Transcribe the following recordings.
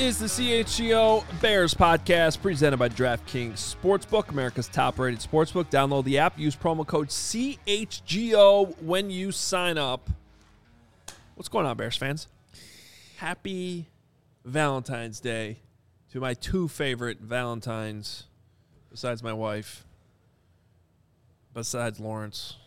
is the CHGO Bears podcast presented by DraftKings Sportsbook, America's top-rated sportsbook. Download the app. Use promo code CHGO when you sign up. What's going on, Bears fans? Happy Valentine's Day to my two favorite Valentines, besides my wife, besides Lawrence,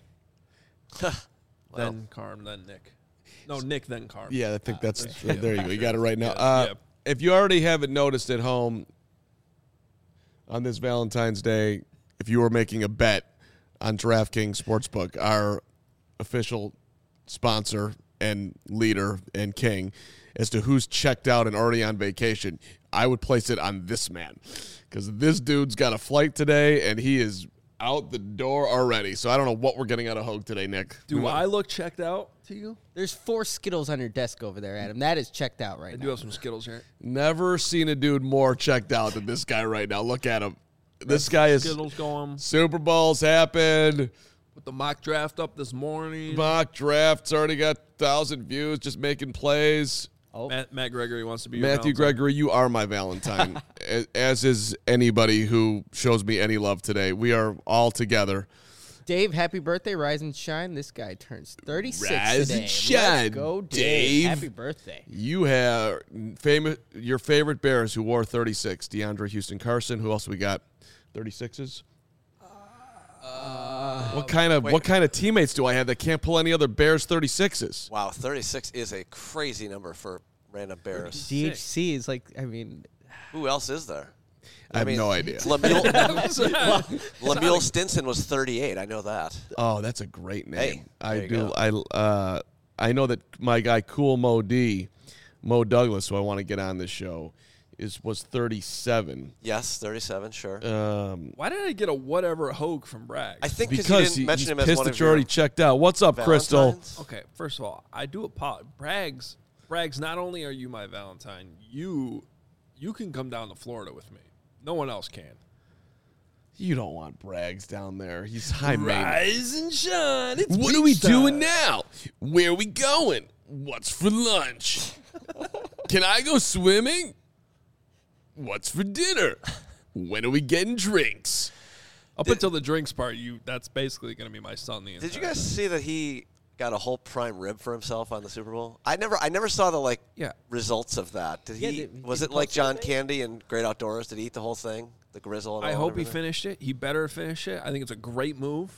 then Carm, then Nick. No, Nick, then Carm. Yeah, I think that's there you go. You got it right now. Yeah. If you already haven't noticed at home on this Valentine's Day, if you were making a bet on DraftKings Sportsbook, our official sponsor and leader and king, as to who's checked out and already on vacation, I would place it on this man, because this dude's got a flight today and he is out the door already. So I don't know what we're getting out of Hogue today, Nick. Do I look checked out to you? There's 4 Skittles on your desk over there, Adam. That is checked out right I now. do have some Skittles here. Never seen a dude more checked out than this guy right now. Look at him. This guy is Skittles going. Super Bowl's happened. Put the mock draft up this morning. Mock draft's already got 1,000 views just making plays. Oh, Matt Gregory wants to be your Matthew Valentine. Gregory, you are my Valentine, as is anybody who shows me any love today. We are all together. Dave, happy birthday, Rise and Shine. This guy turns 36 Rise today. and shine, Let's go, Dave. Happy birthday. You have your favorite Bears who wore 36. DeAndre Houston Carson. Who else we got? 36s? What kind of teammates do I have that can't pull any other Bears 36s? Wow, 36 is a crazy number for random Bears. DHC is like, I mean, Who else is there? I have no idea. Lemuel Stinson was 38. I know that. Oh, that's a great name. Hey, there you I know that my guy Cool Mo Douglas, who I want to get on this show, was 37. Yes, 37, sure. Why did I get a whatever Hogue from Bragg? I think Because you he's didn't mention him as pissed one that of you're your already checked out. What's up, Crystal? Valentines. Okay, first of all, I do apologize. Braggs, not only are you my Valentine, you can come down to Florida with me. No one else can. You don't want Braggs down there. He's high maintenance. Rise and shine. It's What are we beach time. doing now? Where are we going? What's for lunch? Can I go swimming? What's for dinner? When are we getting drinks? Up until the drinks part, that's basically going to be my son. Did you guys see that he got a whole prime rib for himself on the Super Bowl? I never saw the results of that. Did he? Was it like John Candy and Great Outdoors? Did he eat the whole thing? The grizzle and all I hope he everything? finished it. He better finish it. I think it's a great move.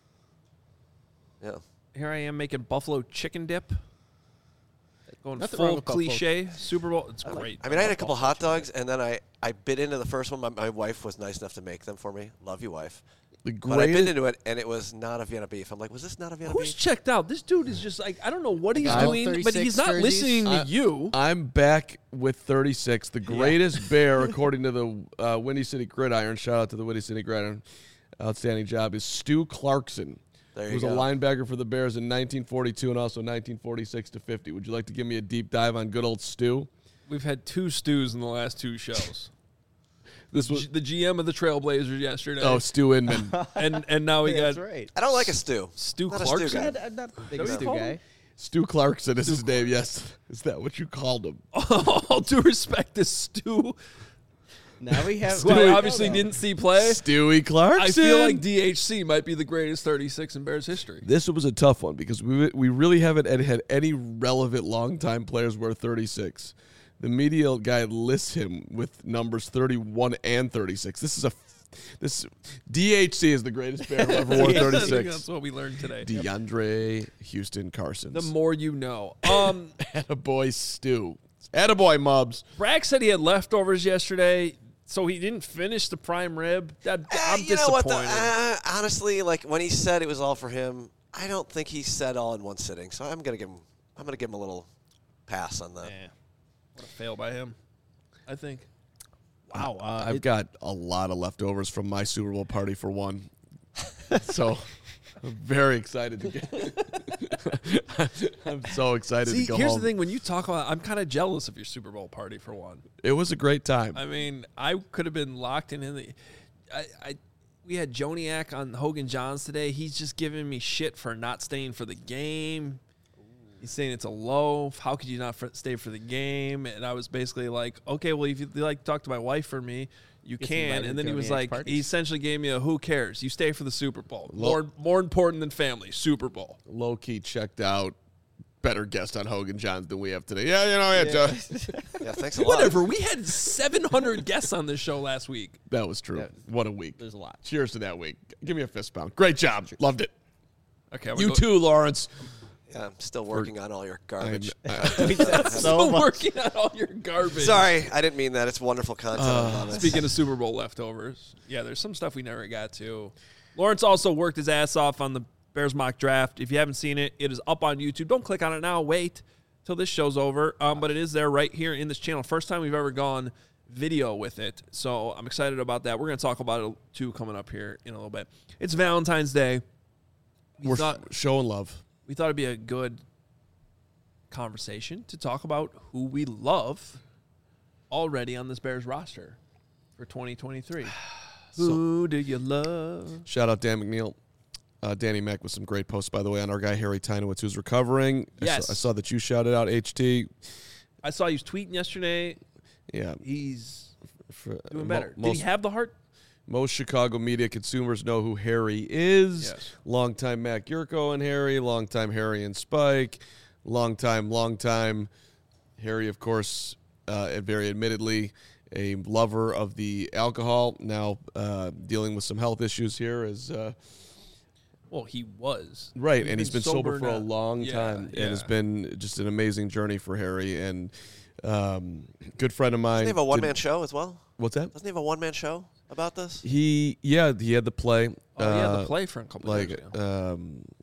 Yeah. Here I am making buffalo chicken dip. Going Nothing wrong full with buffalo. cliche. Super Bowl. It's great. I mean, I had a couple hot dogs, and then I bit into the first one. My wife was nice enough to make them for me. Love you, wife. The But I bit greatest. into it, and it was not a Vienna beef. I'm like, was this not a Vienna Who's beef? checked out? This dude is just like, I don't know what he's got doing, but 36 he's not jerseys. listening to you. I'm back with 36. The greatest Bear, according to the Windy City Gridiron. Shout out to the Windy City Gridiron. Outstanding job is Stu Clarkson. There He you was go. a linebacker for the Bears in 1942 and also 1946 to 50. Would you like to give me a deep dive on good old Stu? We've had 2 stews in the last 2 shows. This was The GM of the Trailblazers yesterday. Stu Inman. and now we that's got right. I don't like a stew. Stu Not a stew Clarkson. guy. I'm not a big What do you Stu call guy. him? Stu Clarkson is his name. Yes, is that what you called him? All due respect to Stu, Now we have. who I obviously didn't see play. Stewie Clarkson. I feel like DHC might be the greatest 36 in Bears history. This was a tough one because we really haven't had any relevant longtime players wear 36. The media guy lists him with numbers 31 and 36. This DHC is the greatest Bear who ever wore I think 36. that's what we learned today. DeAndre Houston Carson. The more you know. Attaboy Stu. Attaboy Mubs. Bragg said he had leftovers yesterday, so he didn't finish the prime rib. I'm You know what? disappointed. Honestly, like when he said it was all for him, I don't think he said all in one sitting. So I'm gonna give him a little pass on that. Yeah. What a fail by him, I think. Wow. I've got a lot of leftovers from my Super Bowl party for one. So I'm very excited to get I'm so excited See, to go here's home. the thing. When you talk about, I'm kind of jealous of your Super Bowl party for one. It was a great time. I mean, I could have been locked in the. We had Joniak on Hogan Johns today. He's just giving me shit for not staying for the game. He's saying it's a loaf. How could you not stay for the game? And I was basically like, okay, well, if you like talk to my wife or me, you can. And then he was like, he essentially gave me a who cares? You stay for the Super Bowl. More important than family, Super Bowl. Low key checked out. Better guest on Hogan Johns than we have today. Yeah, Joe. Yeah, thanks a lot. Whatever. We had 700 guests on this show last week. That was true. What a week. There's a lot. Cheers to that week. Give me a fist bump. Great job. Loved it. Okay. You too, Lawrence. Yeah, I'm still working on all your garbage. Still working on all your garbage. Sorry, I didn't mean that. It's wonderful content. Speaking of Super Bowl leftovers, yeah, there's some stuff we never got to. Lawrence also worked his ass off on the Bears mock draft. If you haven't seen it, it is up on YouTube. Don't click on it now. Wait till this show's over. But it is there right here in this channel. First time we've ever gone video with it. So I'm excited about that. We're going to talk about it too coming up here in a little bit. It's Valentine's Day. We're showing love. We thought it'd be a good conversation to talk about who we love already on this Bears roster for 2023. Who do you love? Shout out Dan McNeil. Danny Mack with some great posts, by the way, on our guy Harry Tynowitz, who's recovering. Yes. I saw that you shouted out HT. I saw you tweeting yesterday. Yeah. He's doing better. Did he have the heart? Most Chicago media consumers know who Harry is. Yes. Longtime Mac Yurko and Harry. Longtime Harry and Spike. Long time. Harry, of course, very admittedly, a lover of the alcohol. Now dealing with some health issues here as... Well, he was. Right, and he's been sober for a long time. Yeah. And it's been just an amazing journey for Harry. And good friend of mine. Doesn't he have a one-man show as well? What's that? Doesn't he have a one-man show about this? He had the play. The play for a couple of years ago.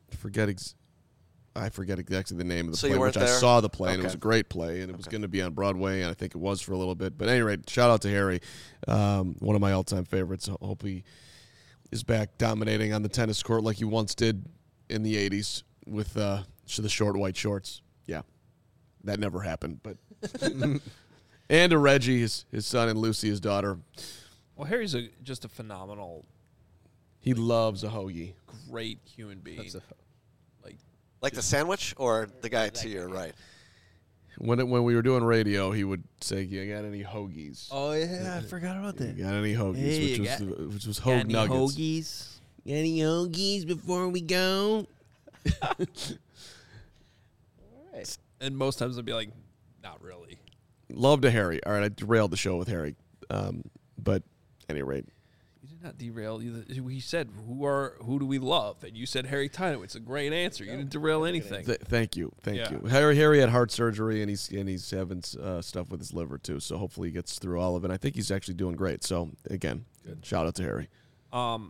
I forget exactly the name of the So play, you weren't which I there? saw the play, and it Okay. was a great play, and it was going to be on Broadway, and I think it was for a little bit. But at any rate, shout out to Harry, one of my all-time favorites. I hope he is back dominating on the tennis court like he once did in the 80s with the short white shorts. Yeah, that never happened. But and to Reggie, his son, and Lucy, his daughter. Well, Harry's just a phenomenal, He loves a hoagie. great human being. Like the sandwich or the guy to your right? When we were doing radio, he would say, "You got any hoagies? Oh yeah, I forgot about that. You got any hoagies?" Hey, which was Hoag Nuggets. Hoagies? Got any hoagies before we go? And most times I'd be like, not really. Love to Harry. All right, I derailed the show with Harry, but at any rate, You did not derail. We said, who do we love? And you said Harry Tynowitz. A great answer. You didn't derail anything. Thank you. Yeah. Harry had heart surgery, and he's having stuff with his liver too. So hopefully he gets through all of it. I think he's actually doing great. So again, shout out to Harry. All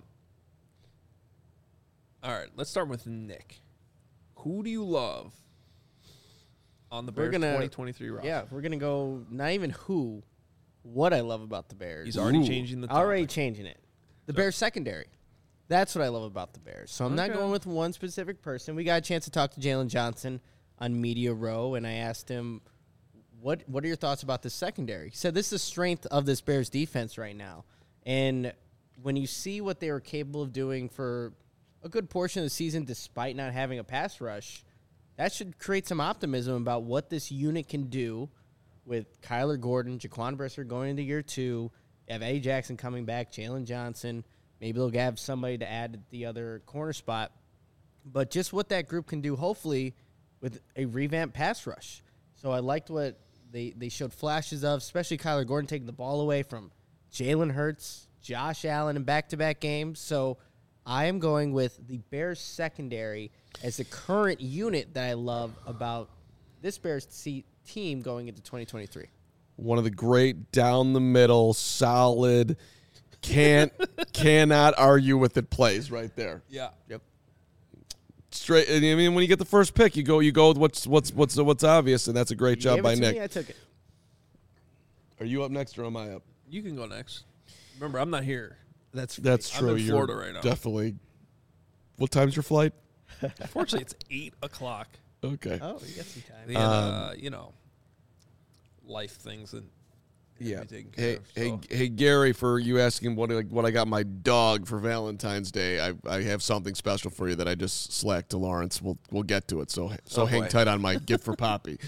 right, let's start with Nick. Who do you love on the Bears 2023 roster? Yeah, we're going to go not even what I love about the Bears. He's already changing the topic. Already changing it. The Bears secondary. That's what I love about the Bears. So I'm not going with one specific person. We got a chance to talk to Jalen Johnson on Media Row, and I asked him, what are your thoughts about the secondary? He said this is the strength of this Bears defense right now. And when you see what they were capable of doing for a good portion of the season despite not having a pass rush, that should create some optimism about what this unit can do with Kyler Gordon, Jaquan Brisker going into year 2. You have Eddie Jackson coming back, Jalen Johnson. Maybe they'll have somebody to add at the other corner spot. But just what that group can do, hopefully, with a revamped pass rush. So I liked what they showed flashes of, especially Kyler Gordon taking the ball away from Jalen Hurts, Josh Allen in back-to-back games. So I am going with the Bears secondary as the current unit that I love about this Bears team going into 2023. One of the great down the middle, solid, cannot argue with it plays right there. Yeah. Yep. Straight. I mean, when you get the first pick, you go with what's obvious, and that's a great job by Nick. Me, I took it. Are you up next, or am I up? You can go next. Remember, I'm not here. That's I'm true. in Florida right now. Definitely. What time's your flight? Fortunately, it's 8 o'clock. Okay. Oh, you got some time. And, life things. And Yeah. taken care of. So. Hey, Gary, for you asking what I got my dog for Valentine's Day, I have something special for you that I just slacked to Lawrence. We'll get to it. So hang tight on my gift for Poppy.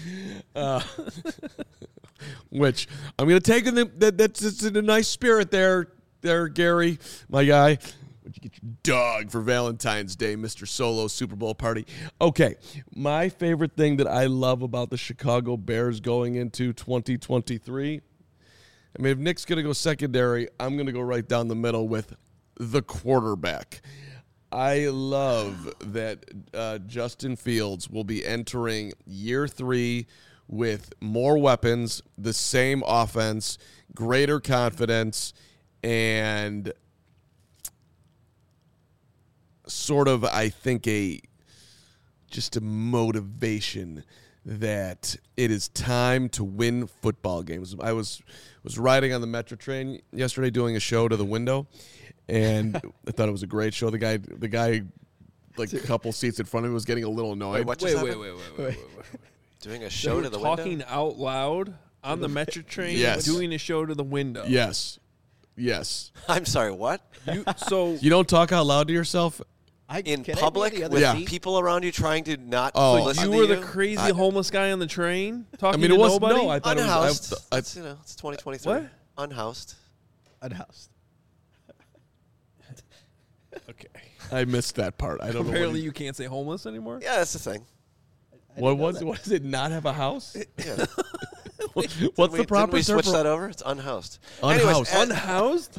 Which I'm going to take that's in a nice spirit there, Gary, my guy. What'd you get your dog for Valentine's Day, Mr. Solo Super Bowl party? Okay, my favorite thing that I love about the Chicago Bears going into 2023, I mean, if Nick's going to go secondary, I'm going to go right down the middle with the quarterback. I love that Justin Fields will be entering year 3 with more weapons, the same offense, greater confidence, and sort of, I think, just a motivation that it is time to win football games. I was riding on the Metro train yesterday doing a show to the window, and I thought it was a great show. The guy, like a couple seats in front of me was getting a little annoyed. Wait. Doing a show to the window? Talking out loud on the Metro train, yes. Doing a show to the window. Yes. I'm sorry, what? You don't talk out loud to yourself? In public with people around you trying to not listen to you? You were the crazy homeless guy on the train talking to nobody? No, I thought unhoused. It was... It's 2023. What? Unhoused. Okay. I missed that part. I don't know. Apparently you can't say homeless anymore? Yeah, that's the thing. What does it not have a house? Yeah. What's the proper term? We switch that over? It's unhoused. Anyways, unhoused?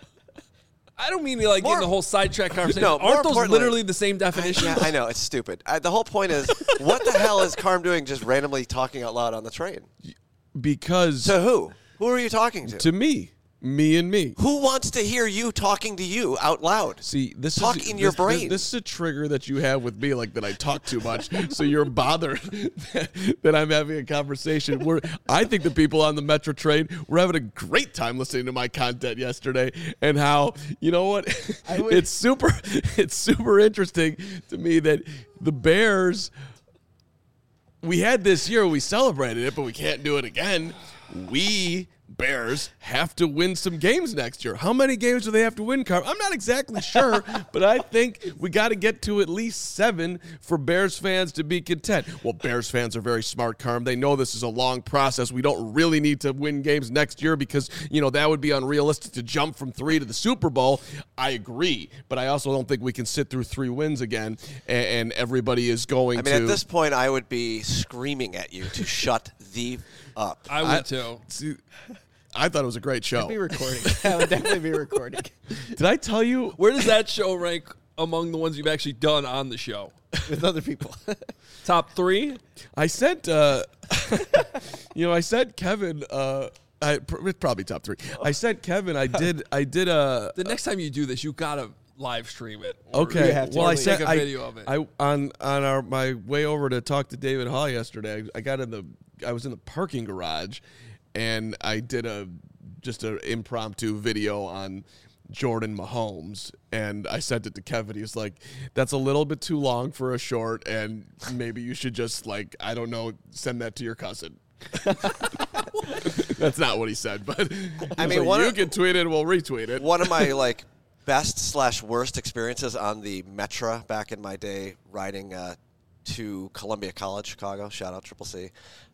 I don't mean to get in the whole sidetrack conversation. No, aren't those literally the same definition? Yeah, I know. It's stupid. The whole point is, what the hell is Carm doing just randomly talking out loud on the train? Because... To who? Who are you talking to? To me. Me and me. Who wants to hear you talking to you out loud? See, Talk in your brain. This is a trigger that you have with me, like that I talk too much. So you're bothered that I'm having a conversation. I think the people on the Metro train were having a great time listening to my content yesterday, and how, you know what? It's super interesting to me that the Bears, we had this year, we celebrated it, but we can't do it again. We Bears have to win some games next year. How many games do they have to win, Carm? I'm not exactly sure, but I think we got to get to at least 7 for Bears fans to be content. Well, Bears fans are very smart, Carm. They know this is a long process. We don't really need to win games next year because, that would be unrealistic to jump from 3 to the Super Bowl. I agree, but I also don't think we can sit through 3 wins again and everybody is going to... at this point, I would be screaming at you to shut the up. I would too. See, I thought it was a great show. I'd be recording. I would definitely be recording. Did I tell you? Where does that show rank among the ones you've actually done on the show? With other people. Top 3? I sent, I sent Kevin, it's probably top 3. I sent Kevin, I did The next time you do this, you got to live stream it. Okay. Well, I sent a video of it. On my way over to talk to David Hall yesterday, I was in the parking garage, and I did just an impromptu video on Jordan Mahomes, and I sent it to Kevin. He was like, "That's a little bit too long for a short, and maybe you should just I don't know, send that to your cousin." That's not what he said, but I mean, you can tweet it, and we'll retweet it. One of my best/worst experiences on the Metro back in my day, riding to Columbia College, Chicago. Shout out Triple C.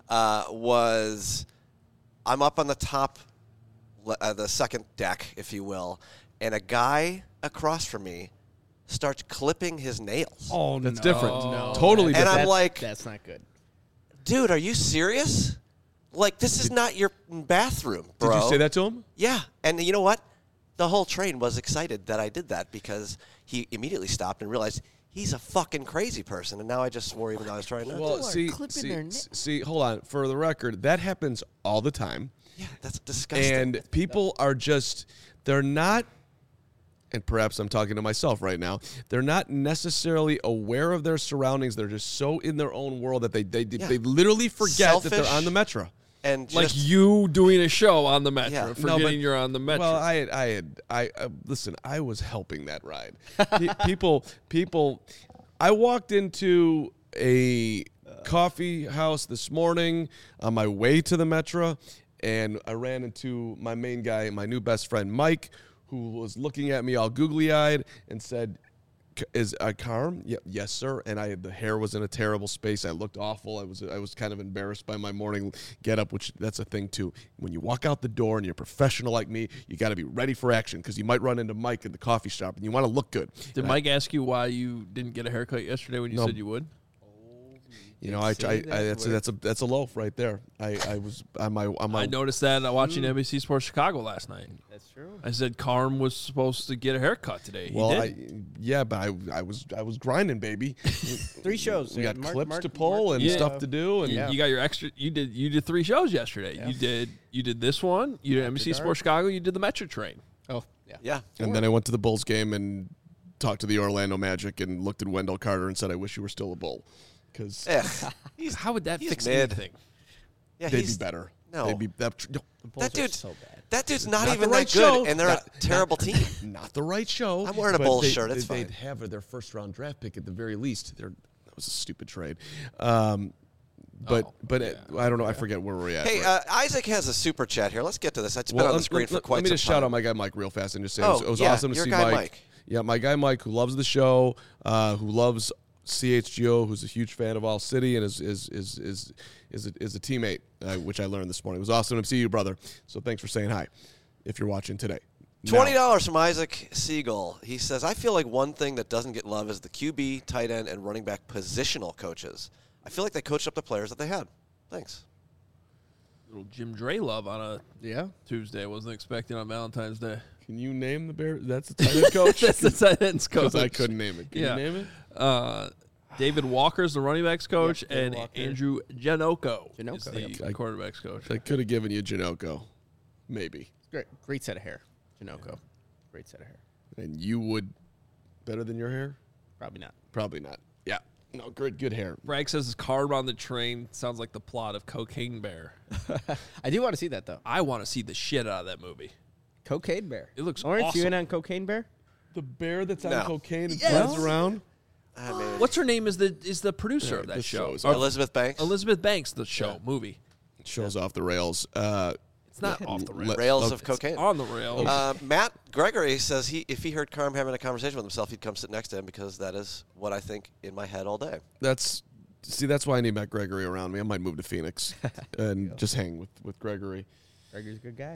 Was I'm up on the top, the second deck, if you will, and a guy across from me starts clipping his nails. Oh, that's different. No. Totally different. And I'm like, that's not good. Dude, are you serious? This is not your bathroom, bro. Did you say that to him? Yeah. And you know what? The whole train was excited that I did that because he immediately stopped and realized he's a fucking crazy person. And now I just swore even though I was trying not to. Well, see, hold on. For the record, that happens all the time. Yeah, that's disgusting. And people are they're not, and perhaps I'm talking to myself right now, they're not necessarily aware of their surroundings. They're just so in their own world that they literally forget that they're on the Metro. And like you doing a show on the Metro, forgetting you're on the Metro. Well, I listen. I was helping that ride. people. I walked into a coffee house this morning on my way to the Metro, and I ran into my main guy, my new best friend, Mike, who was looking at me all googly-eyed and said, "Is Carm?" "Yeah, yes, sir." And the hair was in a terrible space. I looked awful. I was kind of embarrassed by my morning get-up, which that's a thing, too. When you walk out the door and you're a professional like me, you got to be ready for action because you might run into Mike in the coffee shop, and you want to look good. Did Mike ask you why you didn't get a haircut yesterday when you said you would? You know, that's a loaf right there. I was on my. I noticed that watching NBC Sports Chicago last night. That's true. I said Carm was supposed to get a haircut today. He Well, did. but I was grinding, baby. 3 shows. We got clips to pull and stuff to do, and You got your extra. You did 3 shows yesterday. Yeah. You did this one. You did NBC Sports Chicago. You did the Metro Train. Oh, yeah. Yeah. And then I went to the Bulls game and talked to the Orlando Magic and looked at Wendell Carter and said, "I wish you were still a Bull," because How would that he's fix mid. anything? Yeah, they'd be better. No. They'd be that. The Bulls That are dude's so bad. That dude's not Not even the right that good, show. and they're a terrible team. Not the right show. I'm wearing a but Bulls shirt. It's they'd fine. have their first round draft pick at the very least. That was a stupid trade. I don't know. I forget where we're at. Hey, Isaac has a super chat here. Let's get to this. It's been Well, on the screen for quite some time. Let me just shout out my guy Mike real fast and just say it was yeah, awesome to your see guy Mike. Mike. Yeah, my guy Mike, who loves the show, who loves CHGO, who's a huge fan of All City and is a teammate, which I learned this morning. It was awesome to see you, brother. So thanks for saying hi, if you're watching today. $20 from Isaac Siegel. He says, I feel like one thing that doesn't get love is the QB, tight end, and running back positional coaches. I feel like they coached up the players that they had. Thanks. Little Jim Dre love on a Tuesday. Wasn't expecting on Valentine's Day. Can you name the Bears? That's the tight end coach? That's the tight ends coach. Because I couldn't name it. Can you name it? David Walker's the running backs coach, and Walker. Andrew Janoko is Janoko, the quarterbacks coach. I could have given you Janoko. Maybe. Great set of hair. Janoko. Great set of hair. And you would better than your hair? Probably not. Probably not. Yeah. No, good hair. Bragg says his car on the train sounds like the plot of Cocaine Bear. I do want to see that, though. I want to see the shit out of that movie. Cocaine Bear. It looks Orange, awesome. you in on Cocaine Bear? The bear that's No. on cocaine and Yes. flies around? I mean, What's her name is the producer of that this show. show is Or Elizabeth Banks? Elizabeth Banks, the show, movie. Shows off the rails. It's not off the rails. Rails of cocaine. On the rails. Matt Gregory says if he heard Carm having a conversation with himself, he'd come sit next to him because that is what I think in my head all day. That's why I need Matt Gregory around me. I might move to Phoenix and just hang with Gregory. Gregory's a good guy.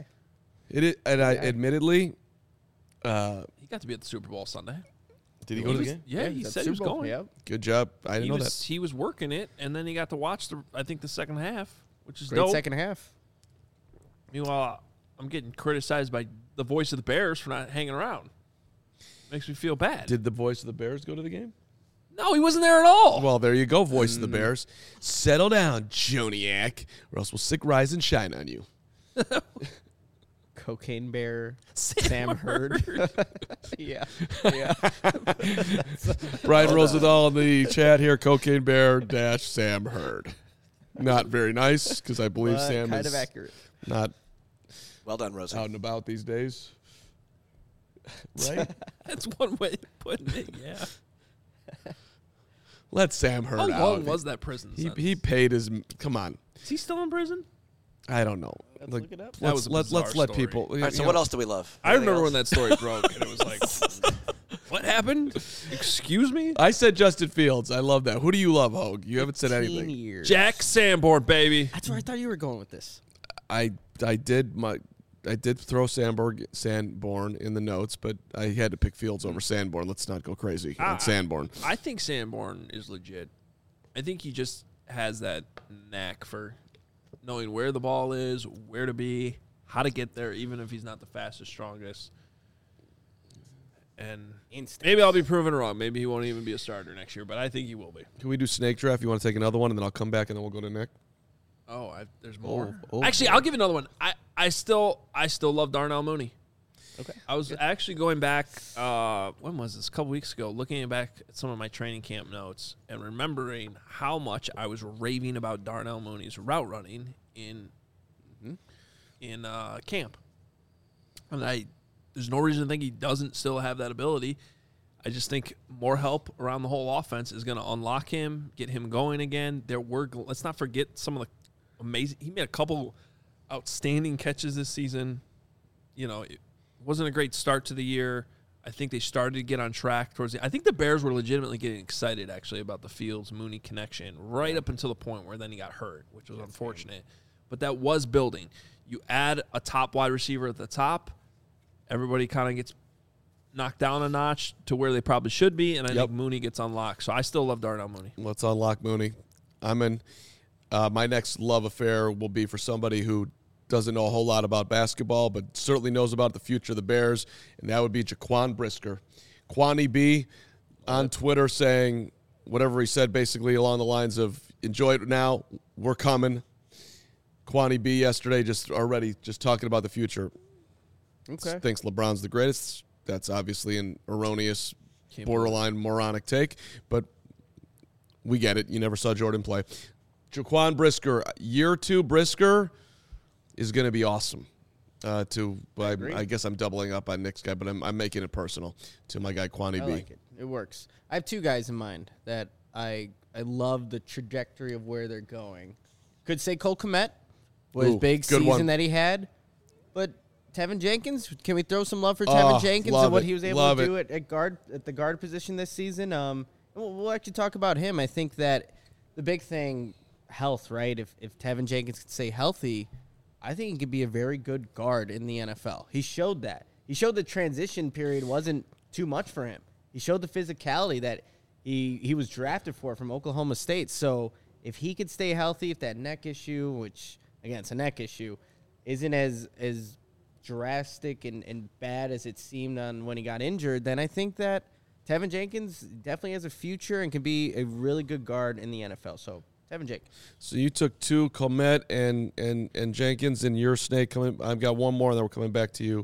Admittedly, He got to be at the Super Bowl Sunday. did he go to the game? Yeah, he said he was going. Yep. Good job. I didn't know that. He was working it, and then he got to watch the second half, which is Great dope. second half. Meanwhile, I'm getting criticized by the voice of the Bears for not hanging around. Makes me feel bad. Did the voice of the Bears go to the game? No, he wasn't there at all. Well, there you go, voice of the Bears. Settle down, Joniak, or else we'll sick rise and shine on you. Cocaine Bear. Sam Hurd. Yeah. Brian Rosenthal in the chat here, Cocaine Bear - Sam Hurd. Not very nice because I believe Sam kind is of accurate. not Well done, Rosie. out and about these days. Right? That's one way of putting it, yeah. Let Sam Hurd How out. long was that prison He sentence? paid his. Come on. Is he still in prison? I don't know. Let's look it up. That was a Let's bizarre let story. people. All right, so what else do we love? I remember when Anything that story broke, and it was like, what happened? Excuse me? I said Justin Fields. I love that. Who do you love, Hogue? You haven't said 15 anything. years. Jack Sanborn, baby. That's where I thought you were going with this. I did throw Sanborn in the notes, but I had to pick Fields over Sanborn. Let's not go crazy on Sanborn. I think Sanborn is legit. I think he just has that knack for knowing where the ball is, where to be, how to get there, even if he's not the fastest, strongest. And maybe I'll be proven wrong. Maybe he won't even be a starter next year, but I think he will be. Can we do snake draft? You want to take another one, and then I'll come back, and then we'll go to Nick? Oh, there's more. Oh. Actually, I'll give you another one. I still love Darnell Mooney. Okay. I was actually going back, when was this? A couple weeks ago, looking back at some of my training camp notes and remembering how much I was raving about Darnell Mooney's route running in camp. And there's no reason to think he doesn't still have that ability. I just think more help around the whole offense is going to unlock him, get him going again. Let's not forget some of the amazing. He made a couple outstanding catches this season. You know, it wasn't a great start to the year. I think they started to get on track towards I think the Bears were legitimately getting excited, actually, about the Fields-Mooney connection right up until the point where then he got hurt, which was unfortunate. But that was building. You add a top wide receiver at the top, everybody kind of gets knocked down a notch to where they probably should be, and I think Mooney gets unlocked. So I still love Darnell Mooney. Let's unlock Mooney. I'm in. My next love affair will be for somebody who doesn't know a whole lot about basketball, but certainly knows about the future of the Bears, and that would be Jaquan Brisker. Quani B on Twitter saying whatever he said, basically along the lines of, enjoy it now, we're coming. Quani B yesterday just talking about the future. Okay. Thinks LeBron's the greatest. That's obviously an erroneous, borderline moronic take, but we get it. You never saw Jordan play. Jaquan Brisker, year 2 Brisker is going to be awesome. I guess I'm doubling up on Nick's guy, but I'm making it personal to my guy Quani B. I like it. It works. I have 2 guys in mind that I love the trajectory of where they're going. Could say Cole Kmet was big season one. that he had, but Tevin Jenkins, can we throw some love for Tevin Jenkins and what he was able to do at the guard position this season? We'll actually talk about him. I think that the big thing, health, right? If Tevin Jenkins could stay healthy, I think he could be a very good guard in the NFL. He showed that. He showed the transition period wasn't too much for him. He showed the physicality that he was drafted for from Oklahoma State. So if he could stay healthy, if that neck issue, which, again, it's a neck issue, isn't as drastic and bad as it seemed on when he got injured, then I think that Tevin Jenkins definitely has a future and can be a really good guard in the NFL. So Tevin Jenkins. So you took 2, Comet and Jenkins, and your snake coming. I've got one more, and then we're coming back to you.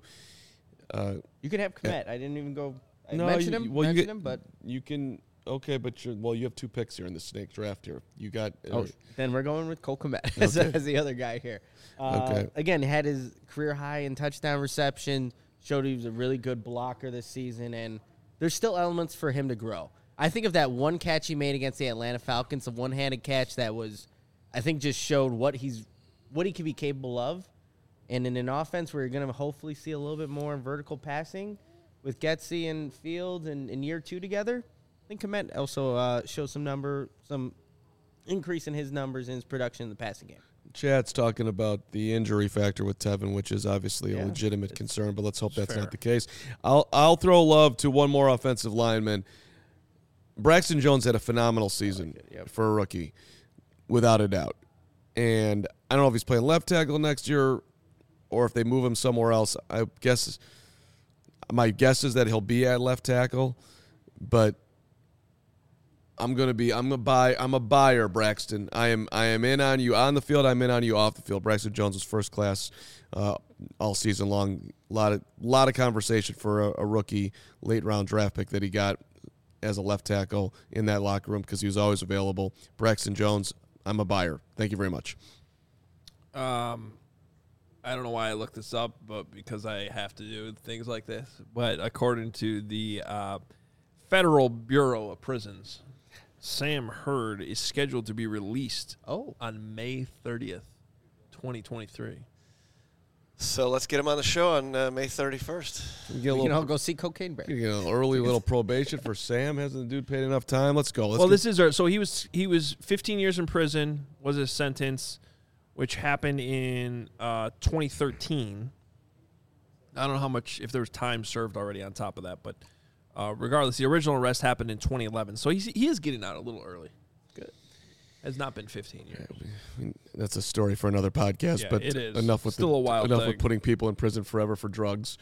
You can have Komet. I didn't even go. I No, mentioned you- him. well, you mentioned get- him, but You can but you have 2 picks here in the snake draft here. You got then we're going with Cole Komet as the other guy here. Okay. Again, had his career high in touchdown reception. Showed he was a really good blocker this season, and there's still elements for him to grow. I think of that one catch he made against the Atlanta Falcons, a one-handed catch that was, I think, just showed what he can be capable of. And in an offense where you're going to hopefully see a little bit more vertical passing with Getsy and Fields in year 2 together, I think Komet also shows some increase in his numbers and his production in the passing game. Chad's talking about the injury factor with Tevin, which is obviously a legitimate concern, but let's hope that's not the case. I'll throw love to one more offensive lineman. Braxton Jones had a phenomenal season for a rookie, without a doubt. And I don't know if he's playing left tackle next year or if they move him somewhere else. My guess is that he'll be at left tackle, but I'm a buyer, Braxton. I am in on you on the field. I'm in on you off the field. Braxton Jones was first class all season long. A lot of conversation for a rookie late round draft pick that he got as a left tackle in that locker room because he was always available. Braxton Jones, I'm a buyer. Thank you very much. I don't know why I looked this up, but because I have to do things like this. But according to the Federal Bureau of Prisons, Sam Hurd is scheduled to be released on May 30th, 2023. So let's get him on the show on May 31st. We can all go see Cocaine Bear. Early little probation for Sam. Hasn't the dude paid enough time? Let's go. So he was 15 years in prison was his sentence, which happened in 2013. I don't know how much, if there was time served already on top of that, but regardless, the original arrest happened in 2011. So he is getting out a little early. Good. Has not been 15 years. That's a story for another podcast. Yeah, but it is. Enough with Still a wild enough thing. with putting people in prison forever for drugs.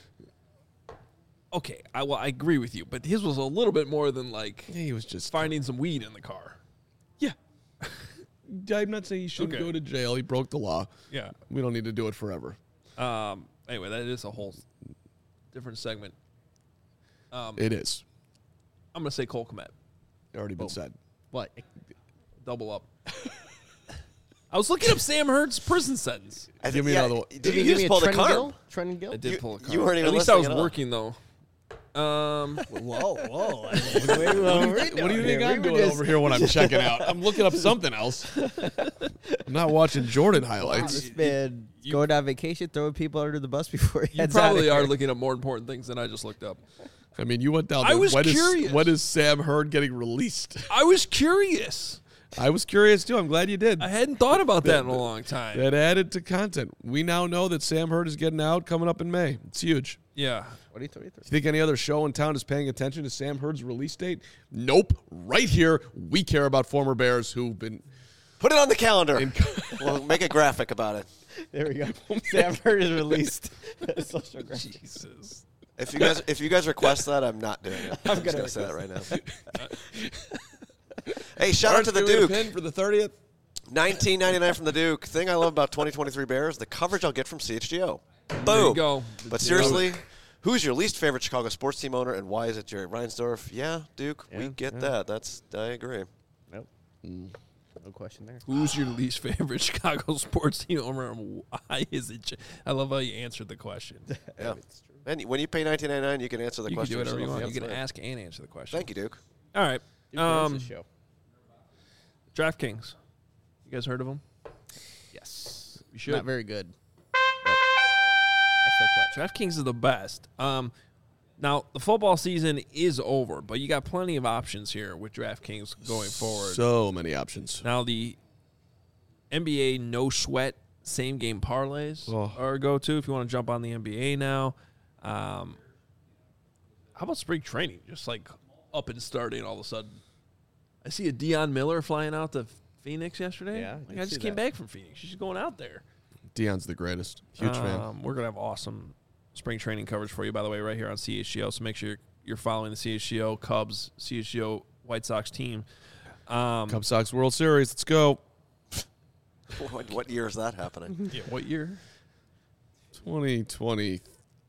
Okay, I agree with you, but his was a little bit more than he was just finding some weed in the car. Yeah. I'm not saying he shouldn't go to jail. He broke the law. Yeah. We don't need to do it forever. Anyway, that is a whole different segment. It is. I'm going to say Cole Komet. Already been said. What? Double up. I was looking up Sam Hurd's prison sentence. Give me another one. Did you just pull the card? Trenton Gill? I did pull a card. You weren't even At least I was listening at all. working, though. Whoa. What do you think I'm doing over here when I'm checking out? I'm looking up something else. I'm not watching Jordan highlights. This man going on vacation, throwing people under the bus before he You heads out probably of are here. looking up more important things than I just looked up. I mean, you went down. I was curious. When is Sam Hurd getting released? I was curious. I was curious too. I'm glad you did. I hadn't thought about that in a long time. That added to content. We now know that Sam Hurd is getting out coming up in May. It's huge. Yeah. 2023. You think any other show in town is paying attention to Sam Hurd's release date? Nope. Right here, we care about former Bears who've been. Put it on the calendar. We'll make a graphic about it. There we go. Sam Hurd is released. Social graphic. Jesus. If you guys request that, I'm not doing it. I'm gonna gonna say that right now. Hey, shout out to the Can we get a Duke. pin for the 30th. $19.99 from the Duke. Thing I love about 2023 Bears, the coverage I'll get from CHGO. Boom. There you go. But seriously, who's your least favorite Chicago sports team owner, and why is it Jerry Reinsdorf? Yeah, Duke, we get that. I agree. Nope. No question there. Who's your least favorite Chicago sports team owner and why is it? I love how you answered the question. Yeah. And when you pay $19.99, you can answer the You can question. do whatever you yourself. want. You That's can right. ask and answer the question. Thank you, Duke. All right. Duke owns the show. DraftKings. You guys heard of them? Yes. You should. Not very good. But I still play. DraftKings is the best. Now, the football season is over, but you got plenty of options here with DraftKings going forward. So many options. Now, the NBA no sweat same game parlays are a go-to if you want to jump on the NBA now. How about spring training? Just like up and starting all of a sudden. I see a Deion Miller flying out to Phoenix yesterday. Yeah, I just came back from Phoenix. She's going out there. Deion's the greatest. Huge fan. We're going to have awesome spring training coverage for you, by the way, right here on CHGO. So make sure you're following the CHGO Cubs, CHGO White Sox team. Cubs Sox World Series. Let's go. What year is that happening? Yeah, what year? 2020.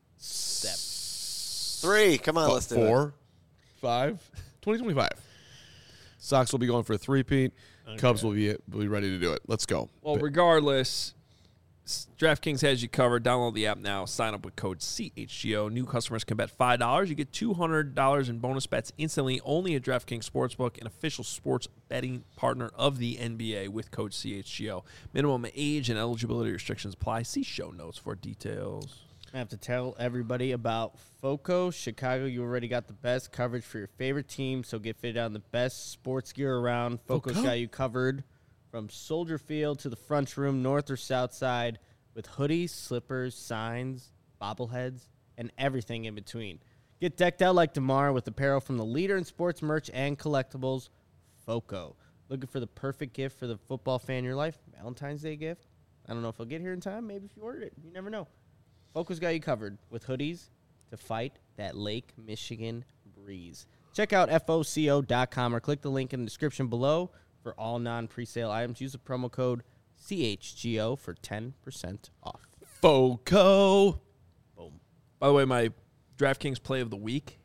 3. Come on, let's do it. 4, 5, 2025. Sox will be going for a three-peat. Cubs will be ready to do it. Let's go. Well, regardless, DraftKings has you covered. Download the app now. Sign up with code CHGO. New customers can bet $5. You get $200 in bonus bets instantly only at DraftKings Sportsbook, an official sports betting partner of the NBA with code CHGO. Minimum age and eligibility restrictions apply. See show notes for details. I have to tell everybody about FOCO. Chicago, you already got the best coverage for your favorite team, so get fitted on the best sports gear around. FOCO's got you covered from Soldier Field to the front room, north or south side, with hoodies, slippers, signs, bobbleheads, and everything in between. Get decked out like DeMar with apparel from the leader in sports merch and collectibles, FOCO. Looking for the perfect gift for the football fan in your life? Valentine's Day gift? I don't know if it'll get here in time. Maybe if you ordered it. You never know. FOCO's got you covered with hoodies to fight that Lake Michigan breeze. Check out FOCO.com or click the link in the description below for all non-presale items. Use the promo code CHGO for 10% off. FOCO. Boom. By the way, my DraftKings play of the week,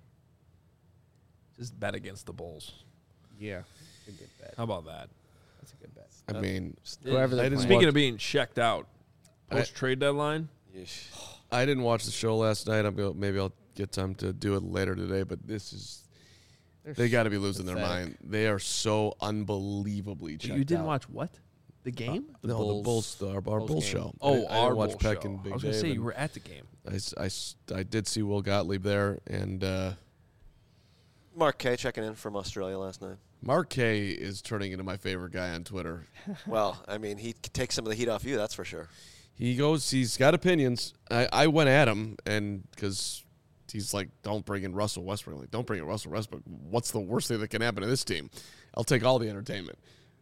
just bet against the Bulls. Yeah. That's a good bet. How about that? That's a good bet. I mean, Whoever they're playing. Speaking of being checked out, post-trade deadline, Yeesh. I didn't watch the show last night. Maybe I'll get time to do it later today, but they got to be losing their mind. They are so unbelievably checked you didn't out. watch what? The game? The Bulls, our Bulls game. show. Oh, I didn't our watch Bull Peck show. and Big I was going to Dave, say and you were at the game. I did see Will Gottlieb there, and Mark K checking in from Australia last night. Mark K is turning into my favorite guy on Twitter. Well, I mean, he takes some of the heat off you, that's for sure. He's got opinions. I went at him, and because he's like, don't bring in Russell Westbrook. I'm like, don't bring in Russell Westbrook. What's the worst thing that can happen to this team? I'll take all the entertainment.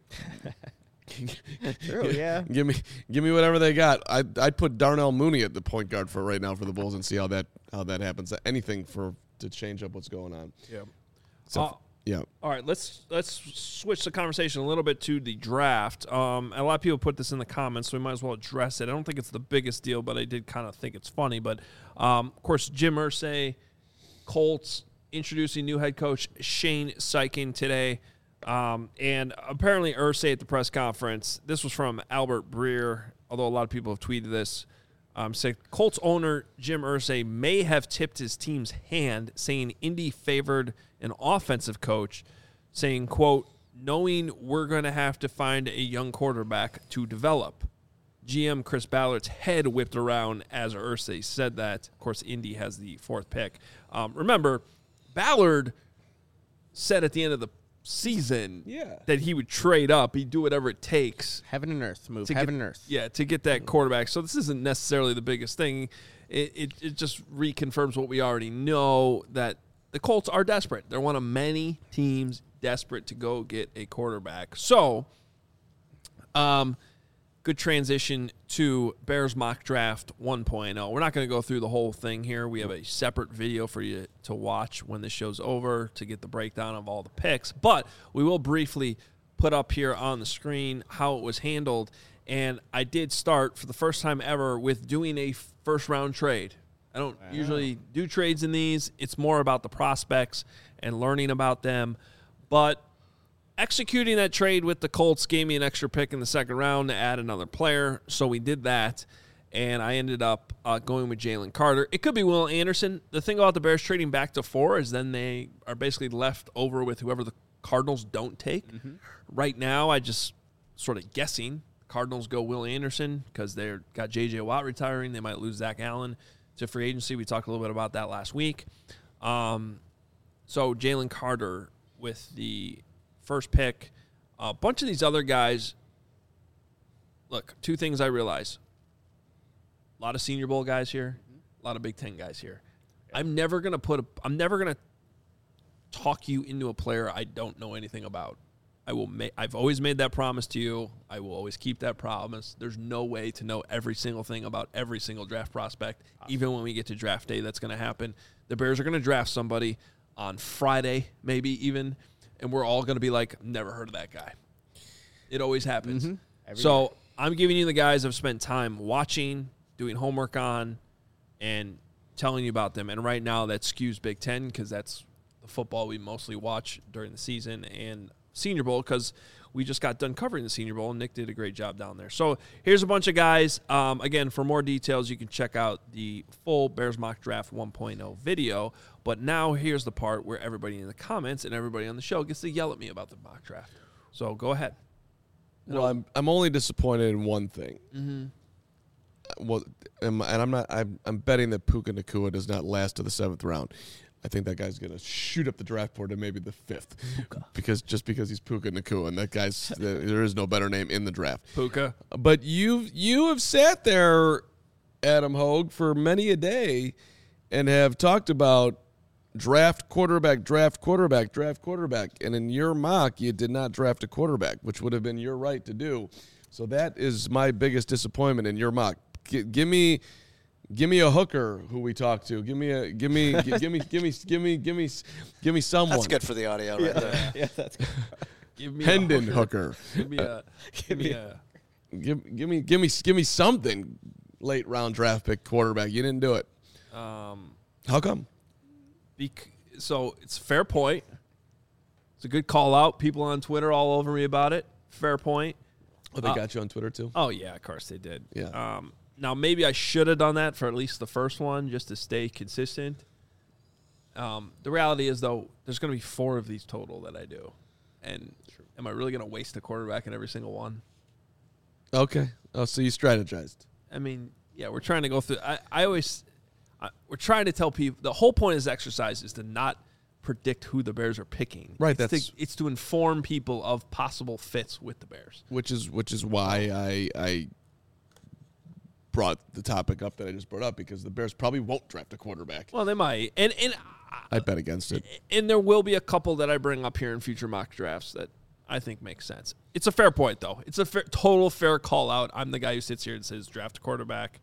True, yeah. Give me whatever they got. I'd put Darnell Mooney at the point guard for right now for the Bulls and see how that happens. Anything to change up what's going on. Yeah. So, yeah. All right, let's switch the conversation a little bit to the draft. A lot of people put this in the comments, so we might as well address it. I don't think it's the biggest deal, but I did kind of think it's funny. But, of course, Jim Irsay, Colts, introducing new head coach Shane Steichen today. And apparently Irsay at the press conference, this was from Albert Breer, although a lot of people have tweeted this, Said Colts owner Jim Irsay may have tipped his team's hand, saying Indy favored an offensive coach, saying, quote, knowing we're going to have to find a young quarterback to develop. GM Chris Ballard's head whipped around as Irsay said that. Of course, Indy has the 4th pick. Remember, Ballard said at the end of the season that he would trade up. He'd do whatever it takes. Heaven and earth. Move to heaven get, and earth. Yeah, to get that quarterback. So this isn't necessarily the biggest thing. It just reconfirms what we already know, that the Colts are desperate. They're one of many teams desperate to go get a quarterback. So, good transition to Bears Mock Draft 1.0. We're not going to go through the whole thing here. We have a separate video for you to watch when this show's over to get the breakdown of all the picks. But we will briefly put up here on the screen how it was handled. And I did start for the first time ever with doing a first-round trade. I don't usually do trades in these. It's more about the prospects and learning about them. But executing that trade with the Colts gave me an extra pick in the 2nd round to add another player, so we did that, and I ended up going with Jalen Carter. It could be Will Anderson. The thing about the Bears trading back to 4 is then they are basically left over with whoever the Cardinals don't take. Right now, I just sort of guessing. Cardinals go Will Anderson because they've got J.J. Watt retiring. They might lose Zach Allen to free agency. We talked a little bit about that last week. So Jalen Carter with the 1st pick. A bunch of these other guys, look, 2 things I realize. A lot of Senior Bowl guys here, a lot of Big Ten guys here. I'm never going to talk you into a player I don't know anything about. I've always made that promise to you. I will always keep that promise. There's no way to know every single thing about every single draft prospect. Even when we get to draft day, that's going to happen. The Bears are going to draft somebody on Friday, maybe even, and we're all going to be like, never heard of that guy. It always happens. So year. I'm giving you the guys I've spent time watching, doing homework on, and telling you about them. And right now that skews Big Ten because that's the football we mostly watch during the season, and Senior Bowl because we just got done covering the Senior Bowl, and Nick did a great job down there. So here's a bunch of guys. Again, for more details, you can check out the full Bears Mock Draft 1.0 video. But now here's the part where everybody in the comments and everybody on the show gets to yell at me about the mock draft. So go ahead. Well, I'm only disappointed in one thing. Well, and I'm betting that Puka Nacua does not last to the 7th round. I think that guy's going to shoot up the draft board to maybe the 5th, because he's Puka Nacua, and that guy's there is no better name in the draft. Puka. But you have sat there, Adam Hogue, for many a day, and have talked about draft quarterback, and in your mock you did not draft a quarterback, which would have been your right to do. So that is my biggest disappointment in your mock. Give me a hooker who we talked to. Give me someone. That's good for the audio right there. Yeah, that's good. Give me Hendon hooker. Give me something. Late round draft pick quarterback. You didn't do it. How come? So it's a fair point. It's a good call out. People on Twitter all over me about it. Fair point. Oh, they got you on Twitter too? Oh, yeah, of course they did. Yeah. Now, maybe I should have done that for at least the first one just to stay consistent. The reality is, though, there's going to be 4 of these total that I do. And am I really going to waste a quarterback in every single one? Okay. Oh, so you strategized. I mean, yeah, we're trying to go through. We're trying to tell people. The whole point of this exercise is to not predict who the Bears are picking. Right. It's to inform people of possible fits with the Bears. Which is why I brought the topic up that I just brought up, because the Bears probably won't draft a quarterback. Well, they might, and I bet against it. And there will be a couple that I bring up here in future mock drafts that I think makes sense. It's a fair point, though. It's a total fair call out. I'm the guy who sits here and says draft a quarterback.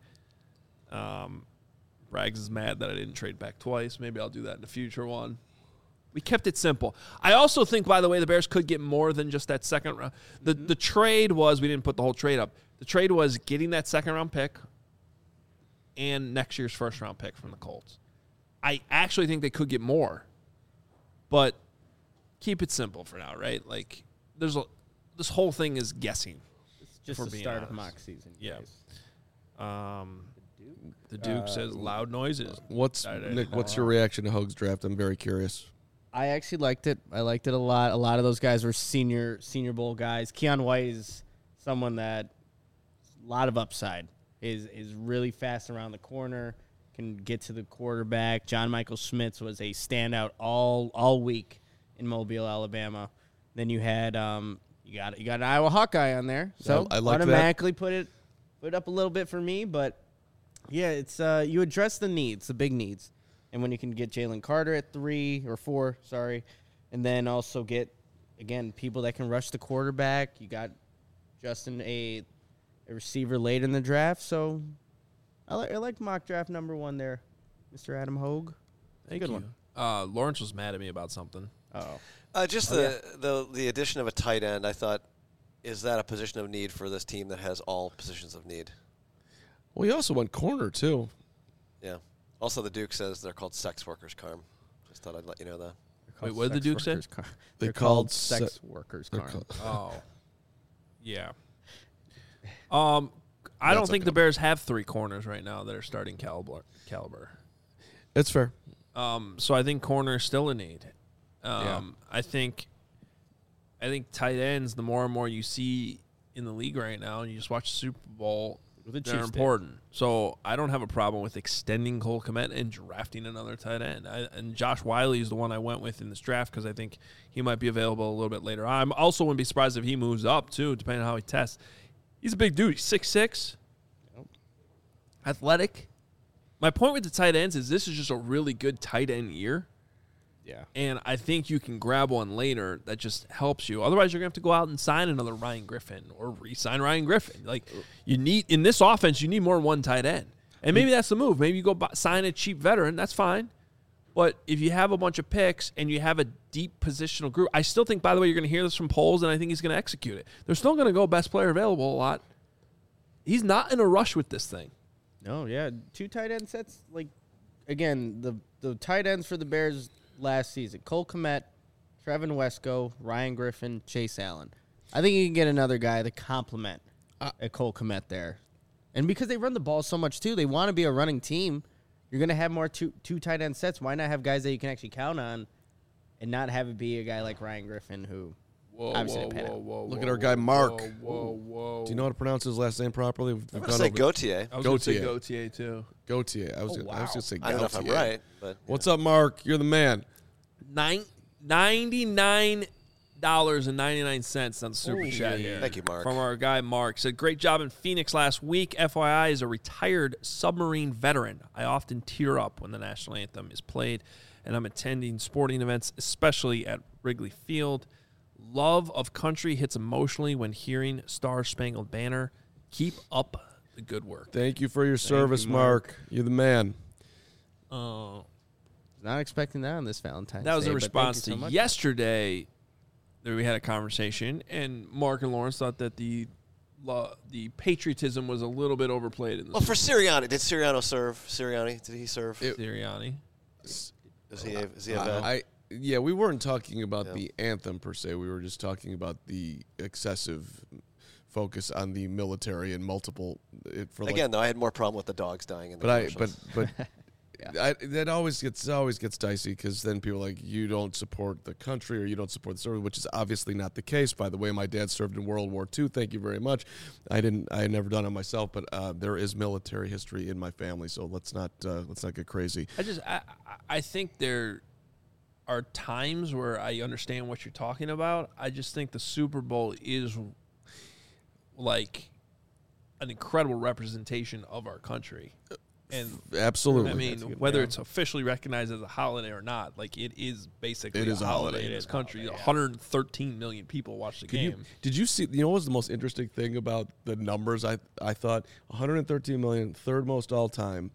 Braggs is mad that I didn't trade back twice. Maybe I'll do that in a future one. We kept it simple. I also think, by the way, the Bears could get more than just that second round. The trade was, we didn't put the whole trade up. The trade was getting that second-round pick and next year's first-round pick from the Colts. I actually think they could get more, but keep it simple for now, right? Like, this whole thing is guessing. It's just the start of mock season. Yeah. The Duke says loud noises. Nick? What's your reaction to Hogue's draft? I'm very curious. I actually liked it. I liked it a lot. A lot of those guys were senior bowl guys. Keon White is someone that a lot of upside. Is really fast around the corner, can get to the quarterback. John Michael Schmitz was a standout all week in Mobile, Alabama. Then you had you got an Iowa Hawkeye on there, so I like automatically put it up a little bit for me. But yeah, it's you address the needs, the big needs, and when you can get Jalen Carter at 3 or 4, and then also get again people that can rush the quarterback. You got Justin a receiver late in the draft, so I like mock draft number 1 there, Mr. Adam Hogue. Thank Good you. one. Lawrence was mad at me about something. Just the addition of a tight end, I thought, is that a position of need for this team that has all positions of need? Well, he also went corner, too. Yeah. Also, the Duke says they're called sex workers, Carm. Just thought I'd let you know that. Wait, what did the Duke say? They're called sex workers, Carm. Oh. Yeah. I don't think the Bears have 3 corners right now that are starting caliber. It's fair. So I think corner is still a need. I think tight ends, the more and more you see in the league right now, and you just watch the Super Bowl, they're important. So I don't have a problem with extending Cole Kmet and drafting another tight end. And Josh Wiley is the one I went with in this draft because I think he might be available a little bit later. I also wouldn't be surprised if he moves up, too, depending on how he tests. He's a big dude. He's 6'6", athletic. My point with the tight ends is this is just a really good tight end year. Yeah. And I think you can grab one later that just helps you. Otherwise, you're going to have to go out and sign another Ryan Griffin or re-sign Ryan Griffin. Like, you need, in this offense, you need more than one tight end. And maybe that's the move. Maybe you go sign a cheap veteran. That's fine. But if you have a bunch of picks and you have a deep positional group, I still think, by the way, you're going to hear this from Poles, and I think he's going to execute it. They're still going to go best player available a lot. He's not in a rush with this thing. No, yeah. 2 tight end sets. Like, again, the tight ends for the Bears last season: Cole Kmet, Trevin Wesco, Ryan Griffin, Chase Allen. I think you can get another guy to complement a Cole Kmet there. And because they run the ball so much, too, they want to be a running team. You're going to have more two tight end sets. Why not have guys that you can actually count on and not have it be a guy like Ryan Griffin who obviously didn't pan out. Look at our guy, Mark. Whoa. Do you know how to pronounce his last name properly? I'm going to say Gautier. I was going to say Gautier, too. Gautier. I was going to say Gautier. I don't know if I'm right. But What's up, Mark? You're the man. $99.99 on the Super Chat here. Thank you, Mark. From our guy, Mark. Said, great job in Phoenix last week. FYI, is a retired submarine veteran. I often tear up when the national anthem is played, and I'm attending sporting events, especially at Wrigley Field. Love of country hits emotionally when hearing Star Spangled Banner. Keep up the good work. Thank you for your service, Mark. You're the man. Not expecting that on this Valentine's Day. That was a but response thank you to so much. yesterday. There we had a conversation, and Mark and Lawrence thought that the patriotism was a little bit overplayed in this. Well, for Sirianni, did Sirianni serve? Sirianni, did he serve? Sirianni. Is he a vet? Yeah, we weren't talking about the anthem per se. We were just talking about the excessive focus on the military and multiple. Again, though, I had more problem with the dogs dying in the commercials. That always gets dicey because then people are like, you don't support the country or you don't support the service, which is obviously not the case. By the way, my dad served in World War II. Thank you very much. I had never done it myself, but there is military history in my family, so let's not get crazy. I think there are times where I understand what you're talking about. I just think the Super Bowl is like an incredible representation of our country. And absolutely, I mean, whether it's officially recognized as a holiday or not, like it is basically a holiday in this country. 113 million people watch the game. Did you see? You know what was the most interesting thing about the numbers? I thought 113 million, third most all time.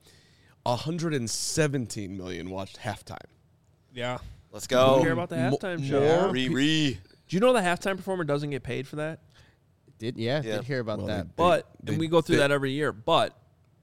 117 million watched halftime. Yeah, let's go. Don't care about the halftime show. Do you know the halftime performer doesn't get paid for that? Did hear about that. And we go through that every year. But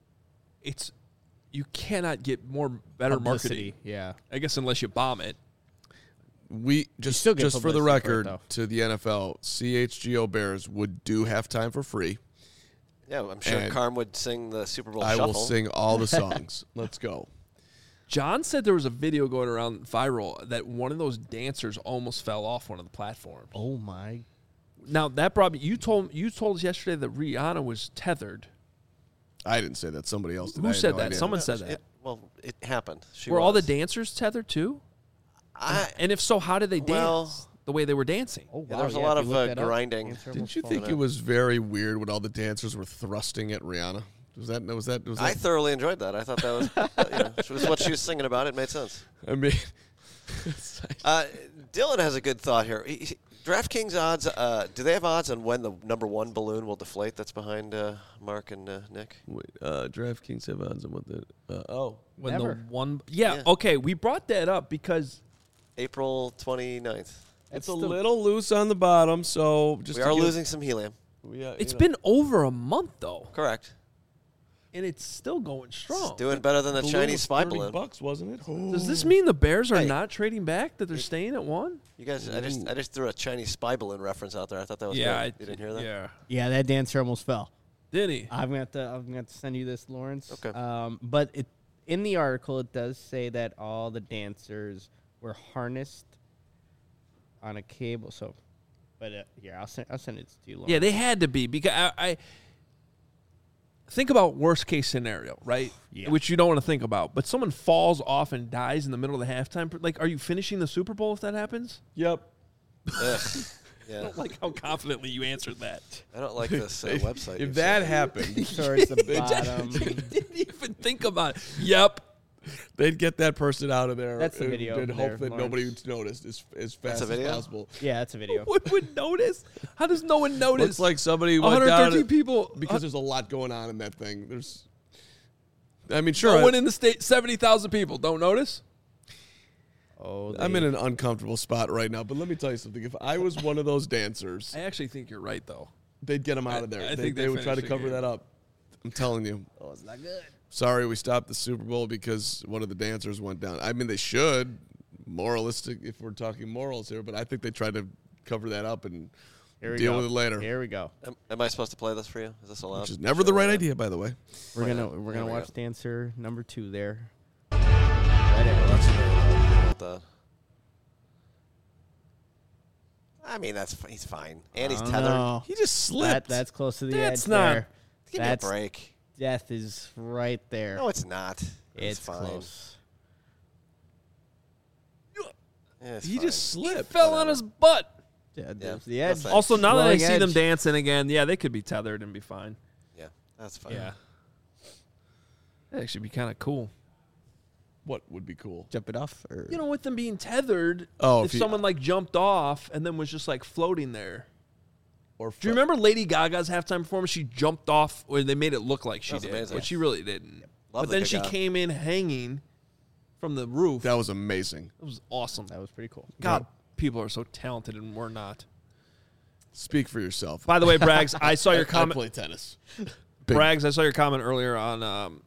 you cannot get better marketing. Yeah, I guess unless you bomb it. We just for the record to the NFL, CHGO Bears would do halftime for free. Yeah, I'm sure And Carm would sing the Super Bowl I shuffle. will sing all the songs. Let's go. John said there was a video going around viral that one of those dancers almost fell off one of the platforms. Oh my! Now that brought me. You told us yesterday that Rihanna was tethered. I didn't say that. Somebody else did. I Who had said no that? idea. Someone said that. It happened. Were all the dancers tethered too? I, And if so, how did they dance? Well- The way they were dancing. Oh wow! Yeah, there was a yeah, lot if you of, look that up, grinding. dancer Didn't almost you falling think out. it was very weird when all the dancers were thrusting at Rihanna? Was that? I thoroughly enjoyed that. I thought that was, was what she was singing about. It made sense. I mean, Dylan has a good thought here. DraftKings odds. Do they have odds on when the number one balloon will deflate? That's behind Mark and Nick. wait, DraftKings have odds on what the When Never. the one, yeah, Yeah. okay, we brought that up because April 29th. it's That's a the- little loose on the bottom, so just We to are give- losing some helium. it's been over a month though, Correct. and it's still going strong. It's doing better than the balloon Chinese was spy $30 balloon. bucks, wasn't it? Does this mean the Bears are Hey. not trading back? That they're staying at one? You guys, I just threw a Chinese spy balloon reference out there. I thought that was Yeah, good. You didn't hear that? Yeah, Yeah, that dancer almost fell. did he? I'm gonna have to send you this, Lawrence. Okay. But in the article it does say that all the dancers were harnessed on a cable. So, but here I'll send it to you, Lawrence. Yeah, they had to be because I think about worst case scenario, right? Yeah. Which you don't want to think about. But someone falls off and dies in the middle of the halftime. Like, are you finishing the Super Bowl if that happens? Yep. Ugh. I Yeah. don't like how confidently you answered that. I don't like this website. you If that sent. happened, towards the bottom. Didn't even think about it. Yep. they'd get that person out of there. That's the and- video And there, hope that Lawrence. nobody would notice as fast a as video? possible. Yeah, that's a video. One would notice. How does no one notice? Looks like somebody went 113 down people. because there's a lot going on in that thing. I mean, sure. No one in the state. 70,000 people don't notice. Oh, I'm in an uncomfortable spot right now, but let me tell you something. If I was one of those dancers, I actually think you're right, though. they'd get them out of there. I They think they would try to finished the cover game. that up. I'm telling you. Oh, it's not good. Sorry, we stopped the Super Bowl because one of the dancers went down. I mean, they should. Moralistic, if we're talking morals here, but I think they tried to cover that up and Here we deal go. with it later. Here we go. Am I supposed to play this for you? Is this allowed? Which is never the right idea, by the way. We're Why gonna not? we're There gonna we watch go. dancer number 2 there. That's about that. I mean, he's fine, and he's Oh, tethered. no. He just slipped. That's close to the That's edge not- there. Give me a That's break. death is right there. No, it's not. it's fine. close. Yeah, it's he fine. just slipped. Fell on his butt. Yeah, Yeah, there's the that's edge. nice. Also, now that I Flowing see them edge. dancing again, yeah, they could be tethered and be fine. Yeah, that's fine. Yeah. That'd actually be kind of cool. What would be cool? Jump it off. Or You know, with them being tethered, Oh, if if you- someone like jumped off and then was just like floating there. Or Do you remember Lady Gaga's halftime performance? She jumped off, or they made it look like she That was did, amazing. but she really didn't. Love But then the she Gaga. came in hanging from the roof. That was amazing. It was awesome. that was pretty cool. God, people are so talented, and we're not. Speak for yourself. By the way, Braggs, I saw your I comment. play tennis. Braggs, I saw your comment earlier on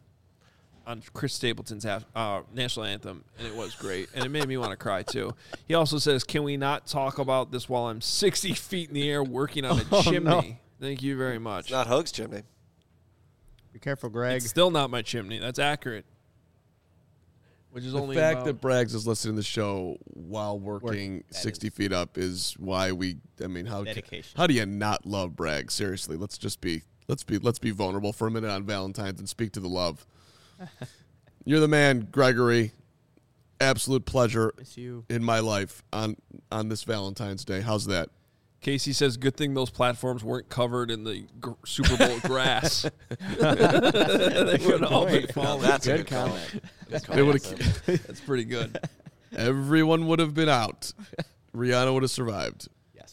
Chris Stapleton's national anthem, and it was great, and it made me want to cry too. He also says, "Can we not talk about this while I'm 60 feet in the air working on a chimney?" no. Thank you very much. It's not Hoag's chimney. Be careful, Greg. It's still not my chimney. That's accurate. Which is The only fact about, that Braggs is listening to the show while working That 60 is- feet up is why we. I mean, Dedication. how do you not love Braggs? Seriously, let's be vulnerable for a minute on Valentine's and speak to the love. You're the man, Gregory. Absolute pleasure Miss you. in my life on this Valentine's Day. How's that? Casey says, "Good thing those platforms weren't covered in the Super Bowl grass. They would all be point. Now falling." that's a Good good call. comment. Good call, They would've Sam. That's pretty good. Everyone would have been out. Rihanna would have survived. Yes.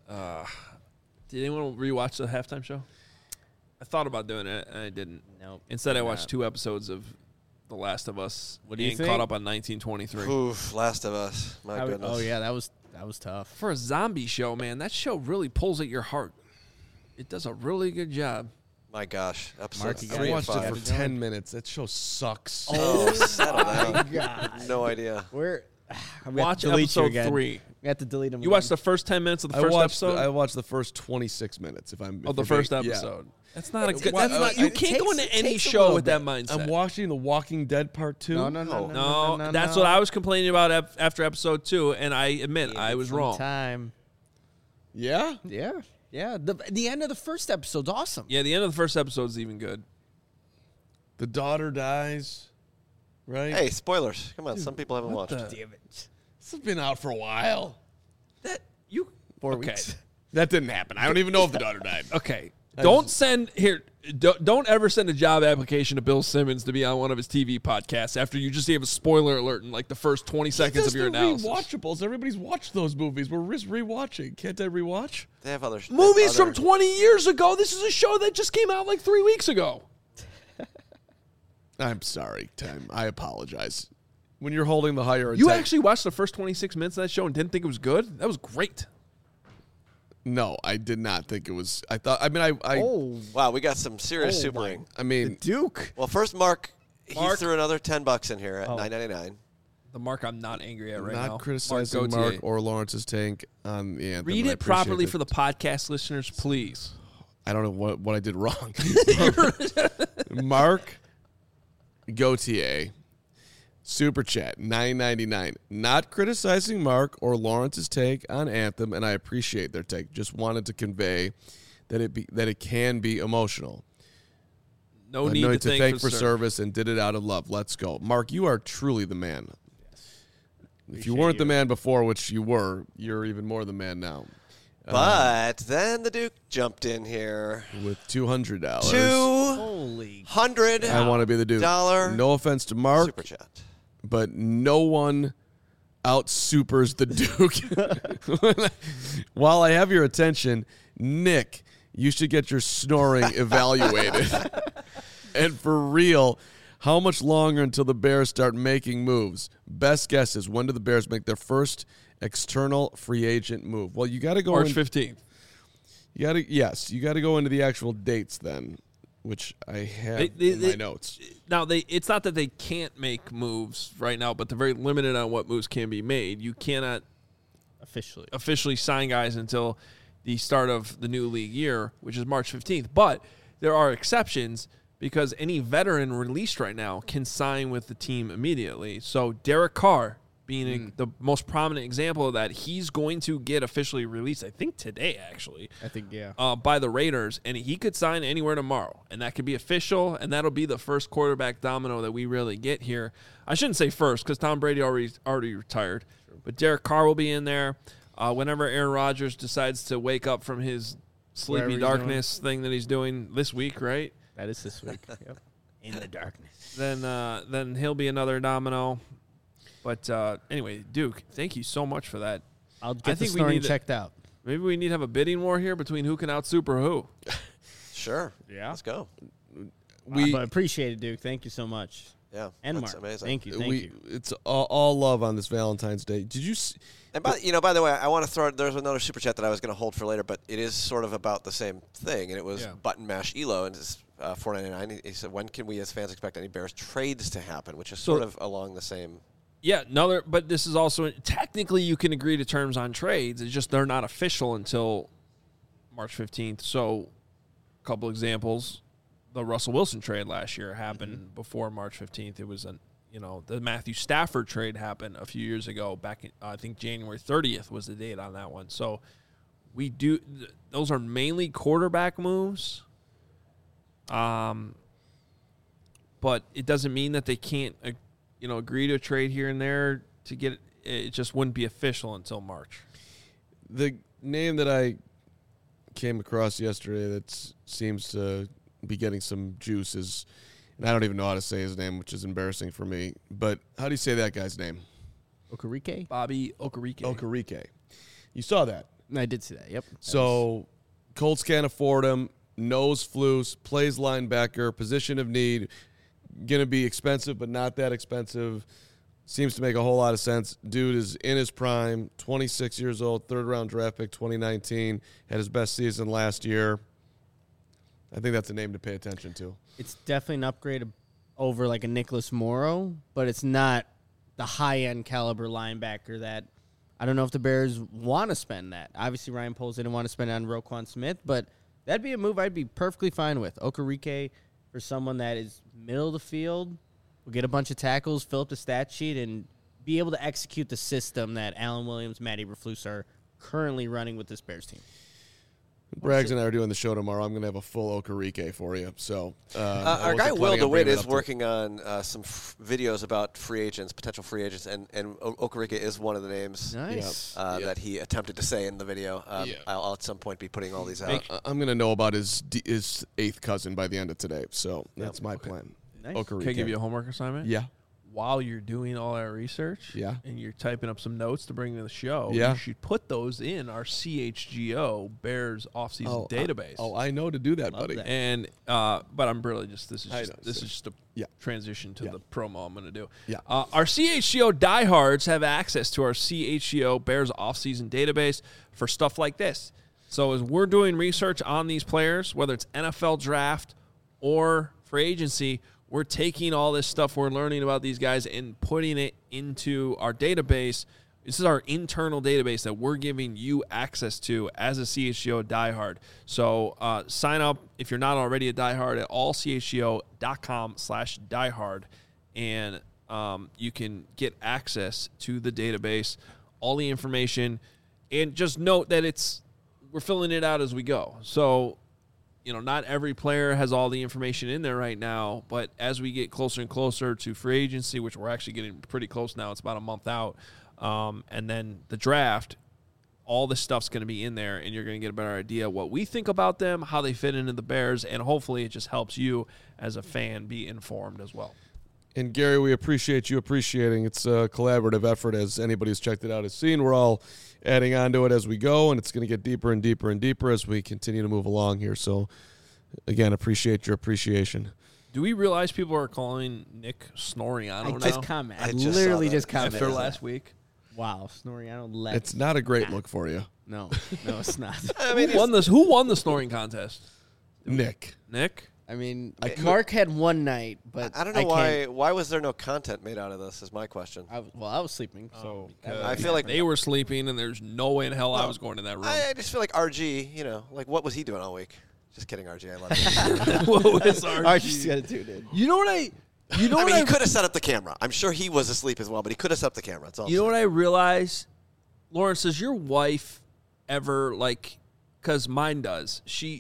Did anyone rewatch the halftime show? I thought about doing it, and I didn't. Nope. Instead, I Did watched not. 2 episodes of The Last of Us. What do you and think? caught up on 1923. Oof, Last of Us. My goodness. Oh yeah, that was tough. For a zombie show, man, that show really pulls at your heart. It does a really good job. My gosh. Episode Mark, you I 3 and watched it 5. for 10 minutes. That show sucks. Oh, settle down. God. No idea. We're Watch delete you episode again. 3. We have to delete them. You watched the first 10 minutes of the first episode? I watched the first 26 minutes. Of the first episode. That's not a good. Well, That's not. You can't go into any show with that mindset. I'm watching The Walking Dead Part 2. No, that's what I was complaining about after episode 2, and I admit I was wrong. Time. Yeah? Yeah. The end of the first episode's awesome. Yeah, the end of the first episode is even good. The daughter dies, right? Hey, spoilers. Come on, some people haven't watched it. Damn it. This has been out for a while. 4 weeks. That didn't happen. I don't even know if the daughter died. Okay. Don't ever send a job application to Bill Simmons to be on one of his TV podcasts after you just gave a spoiler alert in like the first 20 seconds of your analysis. Rewatchables. Everybody's watched those movies. We're just rewatching. Can't I rewatch? They have other Movies from 20 years ago. This is a show that just came out like 3 weeks ago. I'm sorry, Tim. I apologize. When you're holding the higher You attack- actually watched the first 26 minutes of that show and didn't think it was good? That was great. No, I did not think it was. I thought. I mean, I. Wow, we got some serious supering. I mean, Duke. Well, first, Mark, he threw another $10 in here at $9.99. The Mark I'm not angry at right not now. criticizing Mark or Lawrence's take on the anthem. Read I it properly appreciate for the podcast listeners, please. I don't know what I did wrong. Mark Gauthier, Super Chat, $9.99. Not criticizing Mark or Lawrence's take on Anthem, and I appreciate their take. Just wanted to convey that it can be emotional. No need to thank for service, and did it out of love. Let's go. Mark, you are truly the man. Yes. If you weren't the man before, which you were, you're even more the man now. But then the Duke jumped in here with $200. $200. I want to be the Duke. No offense to Mark. Super chat. But no one out-supers the Duke. While I have your attention, Nick, you should get your snoring evaluated. And for real, how much longer until the Bears start making moves? Best guess is, when do the Bears make their first external free agent move? Well, you got to go March 15th. You got to go into the actual dates then, which I have in my notes. Now, it's not that they can't make moves right now, but they're very limited on what moves can be made. You cannot officially sign guys until the start of the new league year, which is March 15th. But there are exceptions, because any veteran released right now can sign with the team immediately. So Derek Carr being the most prominent example of that, he's going to get officially released, I think today, actually. I think, yeah. By the Raiders, and he could sign anywhere tomorrow, and that could be official, and that'll be the first quarterback domino that we really get here. I shouldn't say first, because Tom Brady already retired, but Derek Carr will be in there. Whenever Aaron Rodgers decides to wake up from his sleepy darkness thing that he's doing this week, right? That is this week. Yep. In the darkness. Then he'll be another domino. But anyway, Duke, thank you so much for that. I'll get the snoring checked out. Maybe we need to have a bidding war here between who can out-super who. Sure. Yeah. Let's go. But appreciate it, Duke. Thank you so much. Yeah. And that's Mark. amazing. Thank you. It's all love on this Valentine's Day. Did you see? And by the way, I want to throw. There's another super chat that I was going to hold for later, but it is sort of about the same thing, and it was Button Mash Elo, and it's $4.99. He said, "When can we as fans expect any Bears trades to happen?" Which is sort of along the same. Yeah, but this is also technically you can agree to terms on trades. It's just they're not official until March 15th. So, a couple examples: the Russell Wilson trade last year happened before March 15th. It was the Matthew Stafford trade happened a few years ago. Back in, I think January 30th was the date on that one. So we do; those are mainly quarterback moves. But it doesn't mean that they can't, agree to a trade here and there to get it. It just wouldn't be official until March. The name that I came across yesterday that seems to be getting some juice is. And I don't even know how to say his name, which is embarrassing for me. But how do you say that guy's name? Okereke? Bobby Okereke. Okereke. You saw that. I did see that, yep. So Colts can't afford him. Knows Flus. Plays linebacker. Position of need. Going to be expensive, but not that expensive. Seems to make a whole lot of sense. Dude is in his prime. 26 years old. Third-round draft pick 2019. Had his best season last year. I think that's a name to pay attention to. It's definitely an upgrade over like a Nicholas Morrow, but it's not the high-end caliber linebacker that I don't know if the Bears want to spend that. Obviously, Ryan Poles didn't want to spend it on Roquan Smith, but that'd be a move I'd be perfectly fine with. Okereke for someone that is middle of the field, will get a bunch of tackles, fill up the stat sheet, and be able to execute the system that Alan Williams, Matt Eberflus are currently running with this Bears team. Braggs and I are doing the show tomorrow. I'm going to have a full Okereke for you. So our guy Will DeWitt is working on some videos about free agents, potential free agents, and Okereke is one of the names that he attempted to say in the video. I'll at some point be putting all these out. I'm going to know about his eighth cousin by the end of today. So that's my plan. Nice. Okereke. Can I give you a homework assignment? Yeah. While you're doing all that research, and you're typing up some notes to bring to the show, you should put those in our CHGO Bears offseason database. I know to do that, Love buddy. that. And but I'm really just this is just a Yeah. transition to the promo I'm going to do. Yeah. Our CHGO diehards have access to our CHGO Bears offseason database for stuff like this. So as we're doing research on these players, whether it's NFL draft or free agency, we're taking all this stuff we're learning about these guys and putting it into our database. This is our internal database that we're giving you access to as a CHGO diehard. So sign up if you're not already a diehard at allchgo.com/diehard, and you can get access to the database, all the information, and just note that we're filling it out as we go. So not every player has all the information in there right now, but as we get closer and closer to free agency, which we're actually getting pretty close now, it's about a month out, and then the draft, all this stuff's going to be in there, and you're going to get a better idea what we think about them, how they fit into the Bears, and hopefully it just helps you as a fan be informed as well. And, Gary, we appreciate you appreciating. It's a collaborative effort, as anybody who's checked it out has seen. We're all adding on to it as we go, and it's going to get deeper and deeper and deeper as we continue to move along here. So, again, appreciate your appreciation. Do we realize people are calling Nick Snoriano now? I literally just commented. After last week. Wow, Snoriano. It's not a great look for you. No, it's not. Who won the snoring contest? Nick. I mean, Mark had one night, but I don't know why was there no content made out of this is my question. I was sleeping, so I feel like they were sleeping, and there's no way in hell I was going to that room. I just feel like RG, what was he doing all week? Just kidding, RG. I love you. What was RG? RG's got to tune in. You know what I he could have set up the camera. I'm sure he was asleep as well, but he could have set up the camera. That's all. You know what I realize? Lawrence, does your wife ever, because mine does, she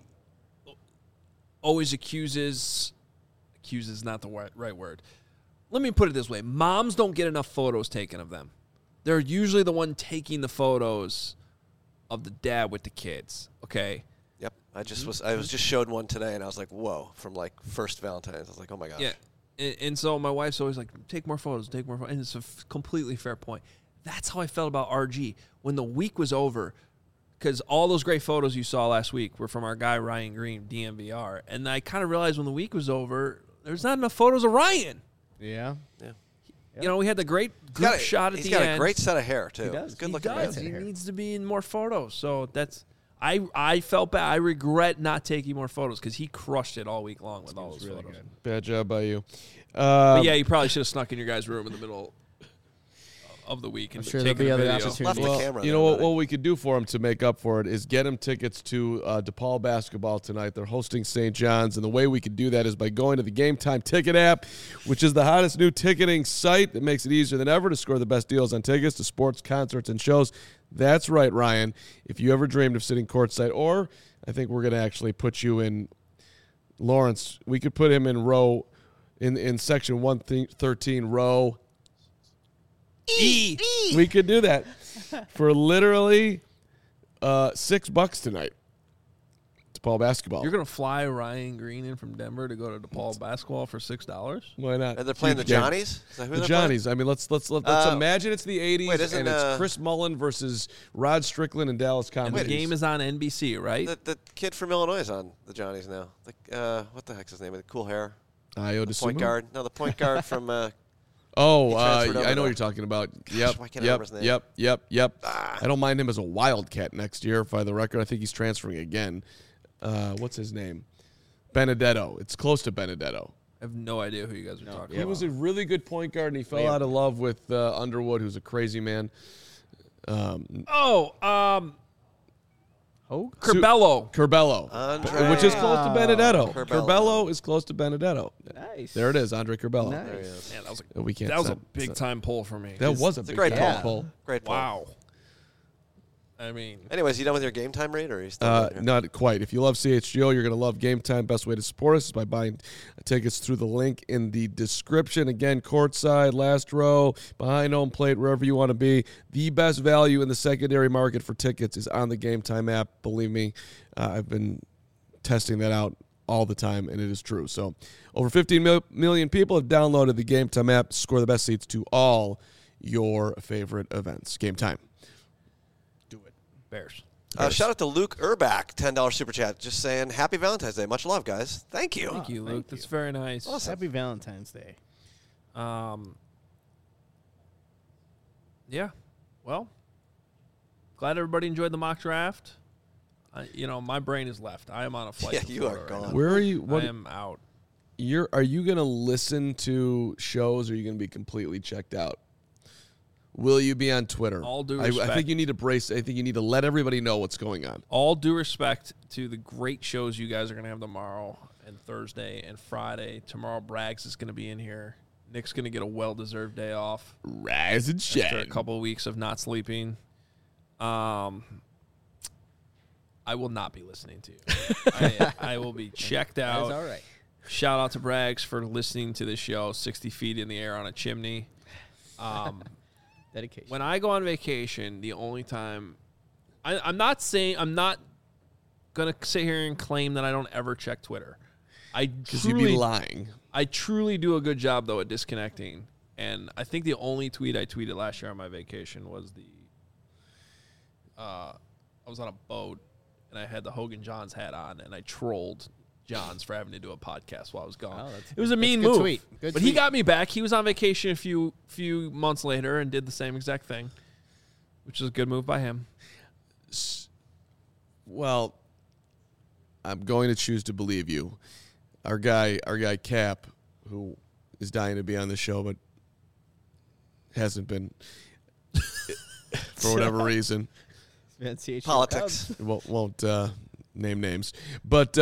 always accuses not the right word. Let me put it this way. Moms don't get enough photos taken of them. They're usually the one taking the photos of the dad with the kids, okay? Yep. I was just showed one today, and I was like, whoa, from first Valentine's. I was like, oh my gosh. Yeah. And so my wife's always like, take more photos. And it's a completely fair point. That's how I felt about RG. When the week was over, because all those great photos you saw last week were from our guy Ryan Green, DMVR. And I kind of realized when the week was over, there's not enough photos of Ryan. Yeah. We had the great group shot at the end. He's got a great set of hair, too. He does. Good looking man. He needs to be in more photos. So I felt bad. I regret not taking more photos because he crushed it all week long with all those photos. Good. Bad job by you. But yeah, you probably should have snuck in your guys' room in the middle of the week and I'm sure taken there'll be a other video. opportunities. Left the camera You there, know what? buddy. What we could do for him to make up for it is get him tickets to DePaul basketball tonight. They're hosting St. John's, and the way we could do that is by going to the Game Time Ticket app, which is the hottest new ticketing site that makes it easier than ever to score the best deals on tickets to sports, concerts, and shows. That's right, Ryan. If you ever dreamed of sitting courtside, or I think we're going to actually put you in Lawrence. We could put him in row in section 113, row E. We could do that for literally $6 tonight. DePaul basketball. You're going to fly Ryan Green in from Denver to go to DePaul basketball for $6? Why not? And they're playing Huge the game. Johnnies? Is that who The they're Johnnies. I mean, let's imagine it's the 80s wait, isn't, and it's Chris Mullen versus Rod Strickland and Dallas And Comedy. the game is on NBC, right? The kid from Illinois is on the Johnnies now. What the heck's his name? With the cool hair. Io The point DeSumo? guard. No, the point guard from Oh, He transferred over I know to- what you're talking about. why can't I remember his name? Yep. I don't mind him as a Wildcat next year, by the record. I think he's transferring again. What's his name? Benedetto. It's close to Benedetto. I have no idea who you guys are talking He about. was a really good point guard, and he fell out of love with Underwood, who's a crazy man. Hogue? Curbelo. Andre which is close to Benedetto. Curbelo. Curbelo is close to Benedetto. Nice. There it is, Andre Curbelo. Nice. There he is. Man, We can't. that was a send- big time pull for me. That was a It's a big great time pull. pull. Great pull. Wow. I mean, Anyways, you done with your game time rate, or are you still? Not quite. If you love CHGO, you're going to love Game Time. Best way to support us is by buying tickets through the link in the description. Again, courtside, last row, behind home plate, wherever you want to be. The best value in the secondary market for tickets is on the Game Time app. Believe me, I've been testing that out all the time, and it is true. So over 15 million people have downloaded the Game Time app to score the best seats to all your favorite events. Game Time. Bears. Shout out to Luke Urbach, $10 super chat, just saying Happy Valentine's Day. Much love, guys. Thank you. Thank you, Luke. thank That's you. very nice. Happy Valentine's Day. Yeah. Well, glad everybody enjoyed the mock draft. My brain is left. I am on a flight. Yeah, to you are Florida right gone. now. Where are you? I am out. Are you going to listen to shows, or are you going to be completely checked out? Will you be on Twitter? All due I respect. think you need to brace. I think you need to let everybody know what's going on. All due respect to the great shows you guys are going to have tomorrow and Thursday and Friday. Tomorrow, Braggs is going to be in here. Nick's going to get a well-deserved day off Rise and after a shine. couple of weeks of not sleeping. I will not be listening to you. I will be checked out. That's all right. Shout out to Braggs for listening to the show 60 feet in the air on a chimney. Dedication. When I go on vacation, the only time I'm not gonna sit here and claim that I don't ever check Twitter. Because you'd be lying. I truly do a good job though at disconnecting. And I think the only tweet I tweeted last year on my vacation was I was on a boat and I had the Hogan Johns hat on and I trolled Johns for having to do a podcast while I was gone. Oh, that's It was a mean good move. tweet. Good But he tweet. got me back. He was on vacation a few months later and did the same exact thing, which is a good move by him. Well, I'm going to choose to believe you. Our guy Cap, who is dying to be on the show but hasn't been for whatever reason. Politics. Won't name names, but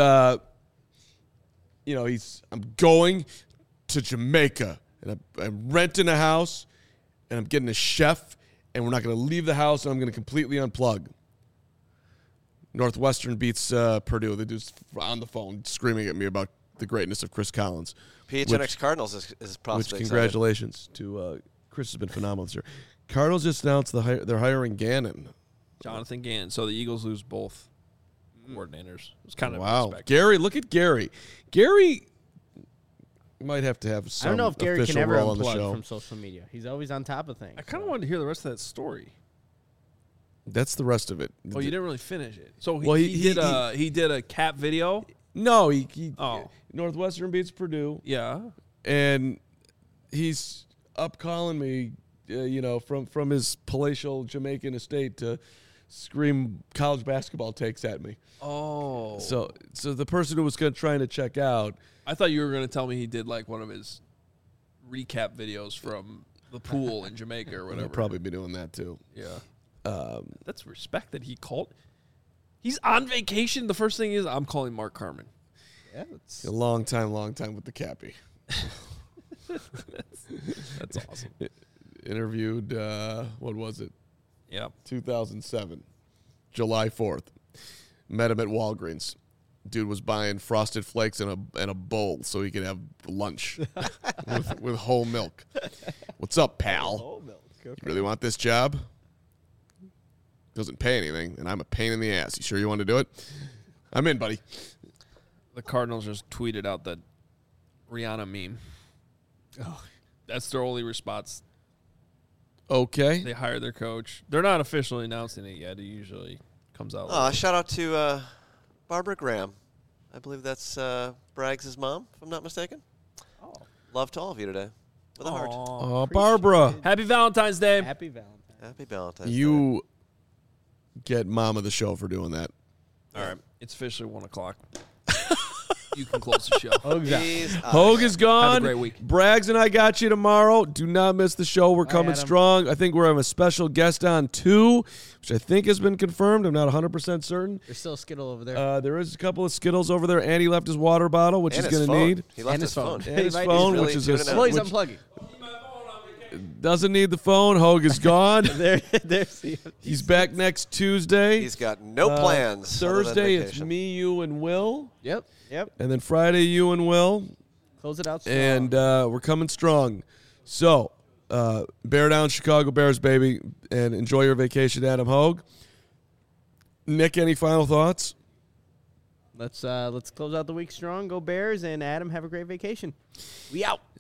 I'm going to Jamaica and I'm renting a house and I'm getting a chef and we're not going to leave the house and I'm going to completely unplug. Northwestern beats Purdue. The dude's on the phone screaming at me about the greatness of Chris Collins. PHNX Cardinals is Which possibly congratulations to Chris has been phenomenal this year. Cardinals just announced they're hiring Gannon. Jonathan Gann. So the Eagles lose both coordinators. It was kind of Wow, expected. Gary, look at Gary. Gary might have to have some I don't know if Gary official can ever role on the unplug show. from social media. He's always on top of things. I kind of wanted to hear the rest of that story. That's the rest of it. Oh, you didn't really finish it. So Well, he did a Cap video. No, he Oh. Northwestern beats Purdue, Yeah. and he's up calling me, from his palatial Jamaican estate to scream college basketball takes at me. Oh. So the person who was trying to check out, I thought you were going to tell me he did like one of his recap videos from the pool in Jamaica or whatever. I'll probably be doing that too. Yeah. That's respect that he called. He's on vacation. The first thing is I'm calling Mark Carmen. Yeah, it's A long time with the Cappy. That's awesome. Interviewed, what was it? Yeah. 2007, July 4th. Met him at Walgreens. Dude was buying Frosted Flakes in a bowl so he could have lunch with whole milk. What's up, pal? You really want this job? Doesn't pay anything, and I'm a pain in the ass. You sure you want to do it? I'm in, buddy. The Cardinals just tweeted out that Rihanna meme. Oh. That's their only response. Okay. They hired their coach. They're not officially announcing it yet. It usually comes out later. Shout out to Barbara Graham. I believe that's Braggs' mom, if I'm not mistaken. Oh. Love to all of you today. With a heart. Oh, Barbara. Happy Valentine's Day. Happy Valentine's. Happy Valentine's Day. You get mom of the show for doing that. All right. It's officially 1 o'clock. you can close the show. He's out Hogue here. is gone. Have a great week. Braggs and I got you tomorrow. Do not miss the show. We're coming Adam. strong. I think we're having a special guest on too, which I think has been confirmed. I'm not 100% certain. There's still a Skittle over there. There is a couple of Skittles over there. Andy left his water bottle, which And he's his going to phone. need. He left And his his phone. phone. And his He's phone, really which is tuning it out. well, he's which unplugging. doesn't need the phone. Hogue is gone. There's the. He's back next Tuesday. He's got no plans. other than Thursday, it's vacation. me, you, and Will. Yep. And then Friday, you and Will. Close it out strong. And we're coming strong. So, bear down, Chicago Bears, baby, and enjoy your vacation, Adam Hogue. Nick, any final thoughts? Let's close out the week strong. Go Bears, and Adam, have a great vacation. We out.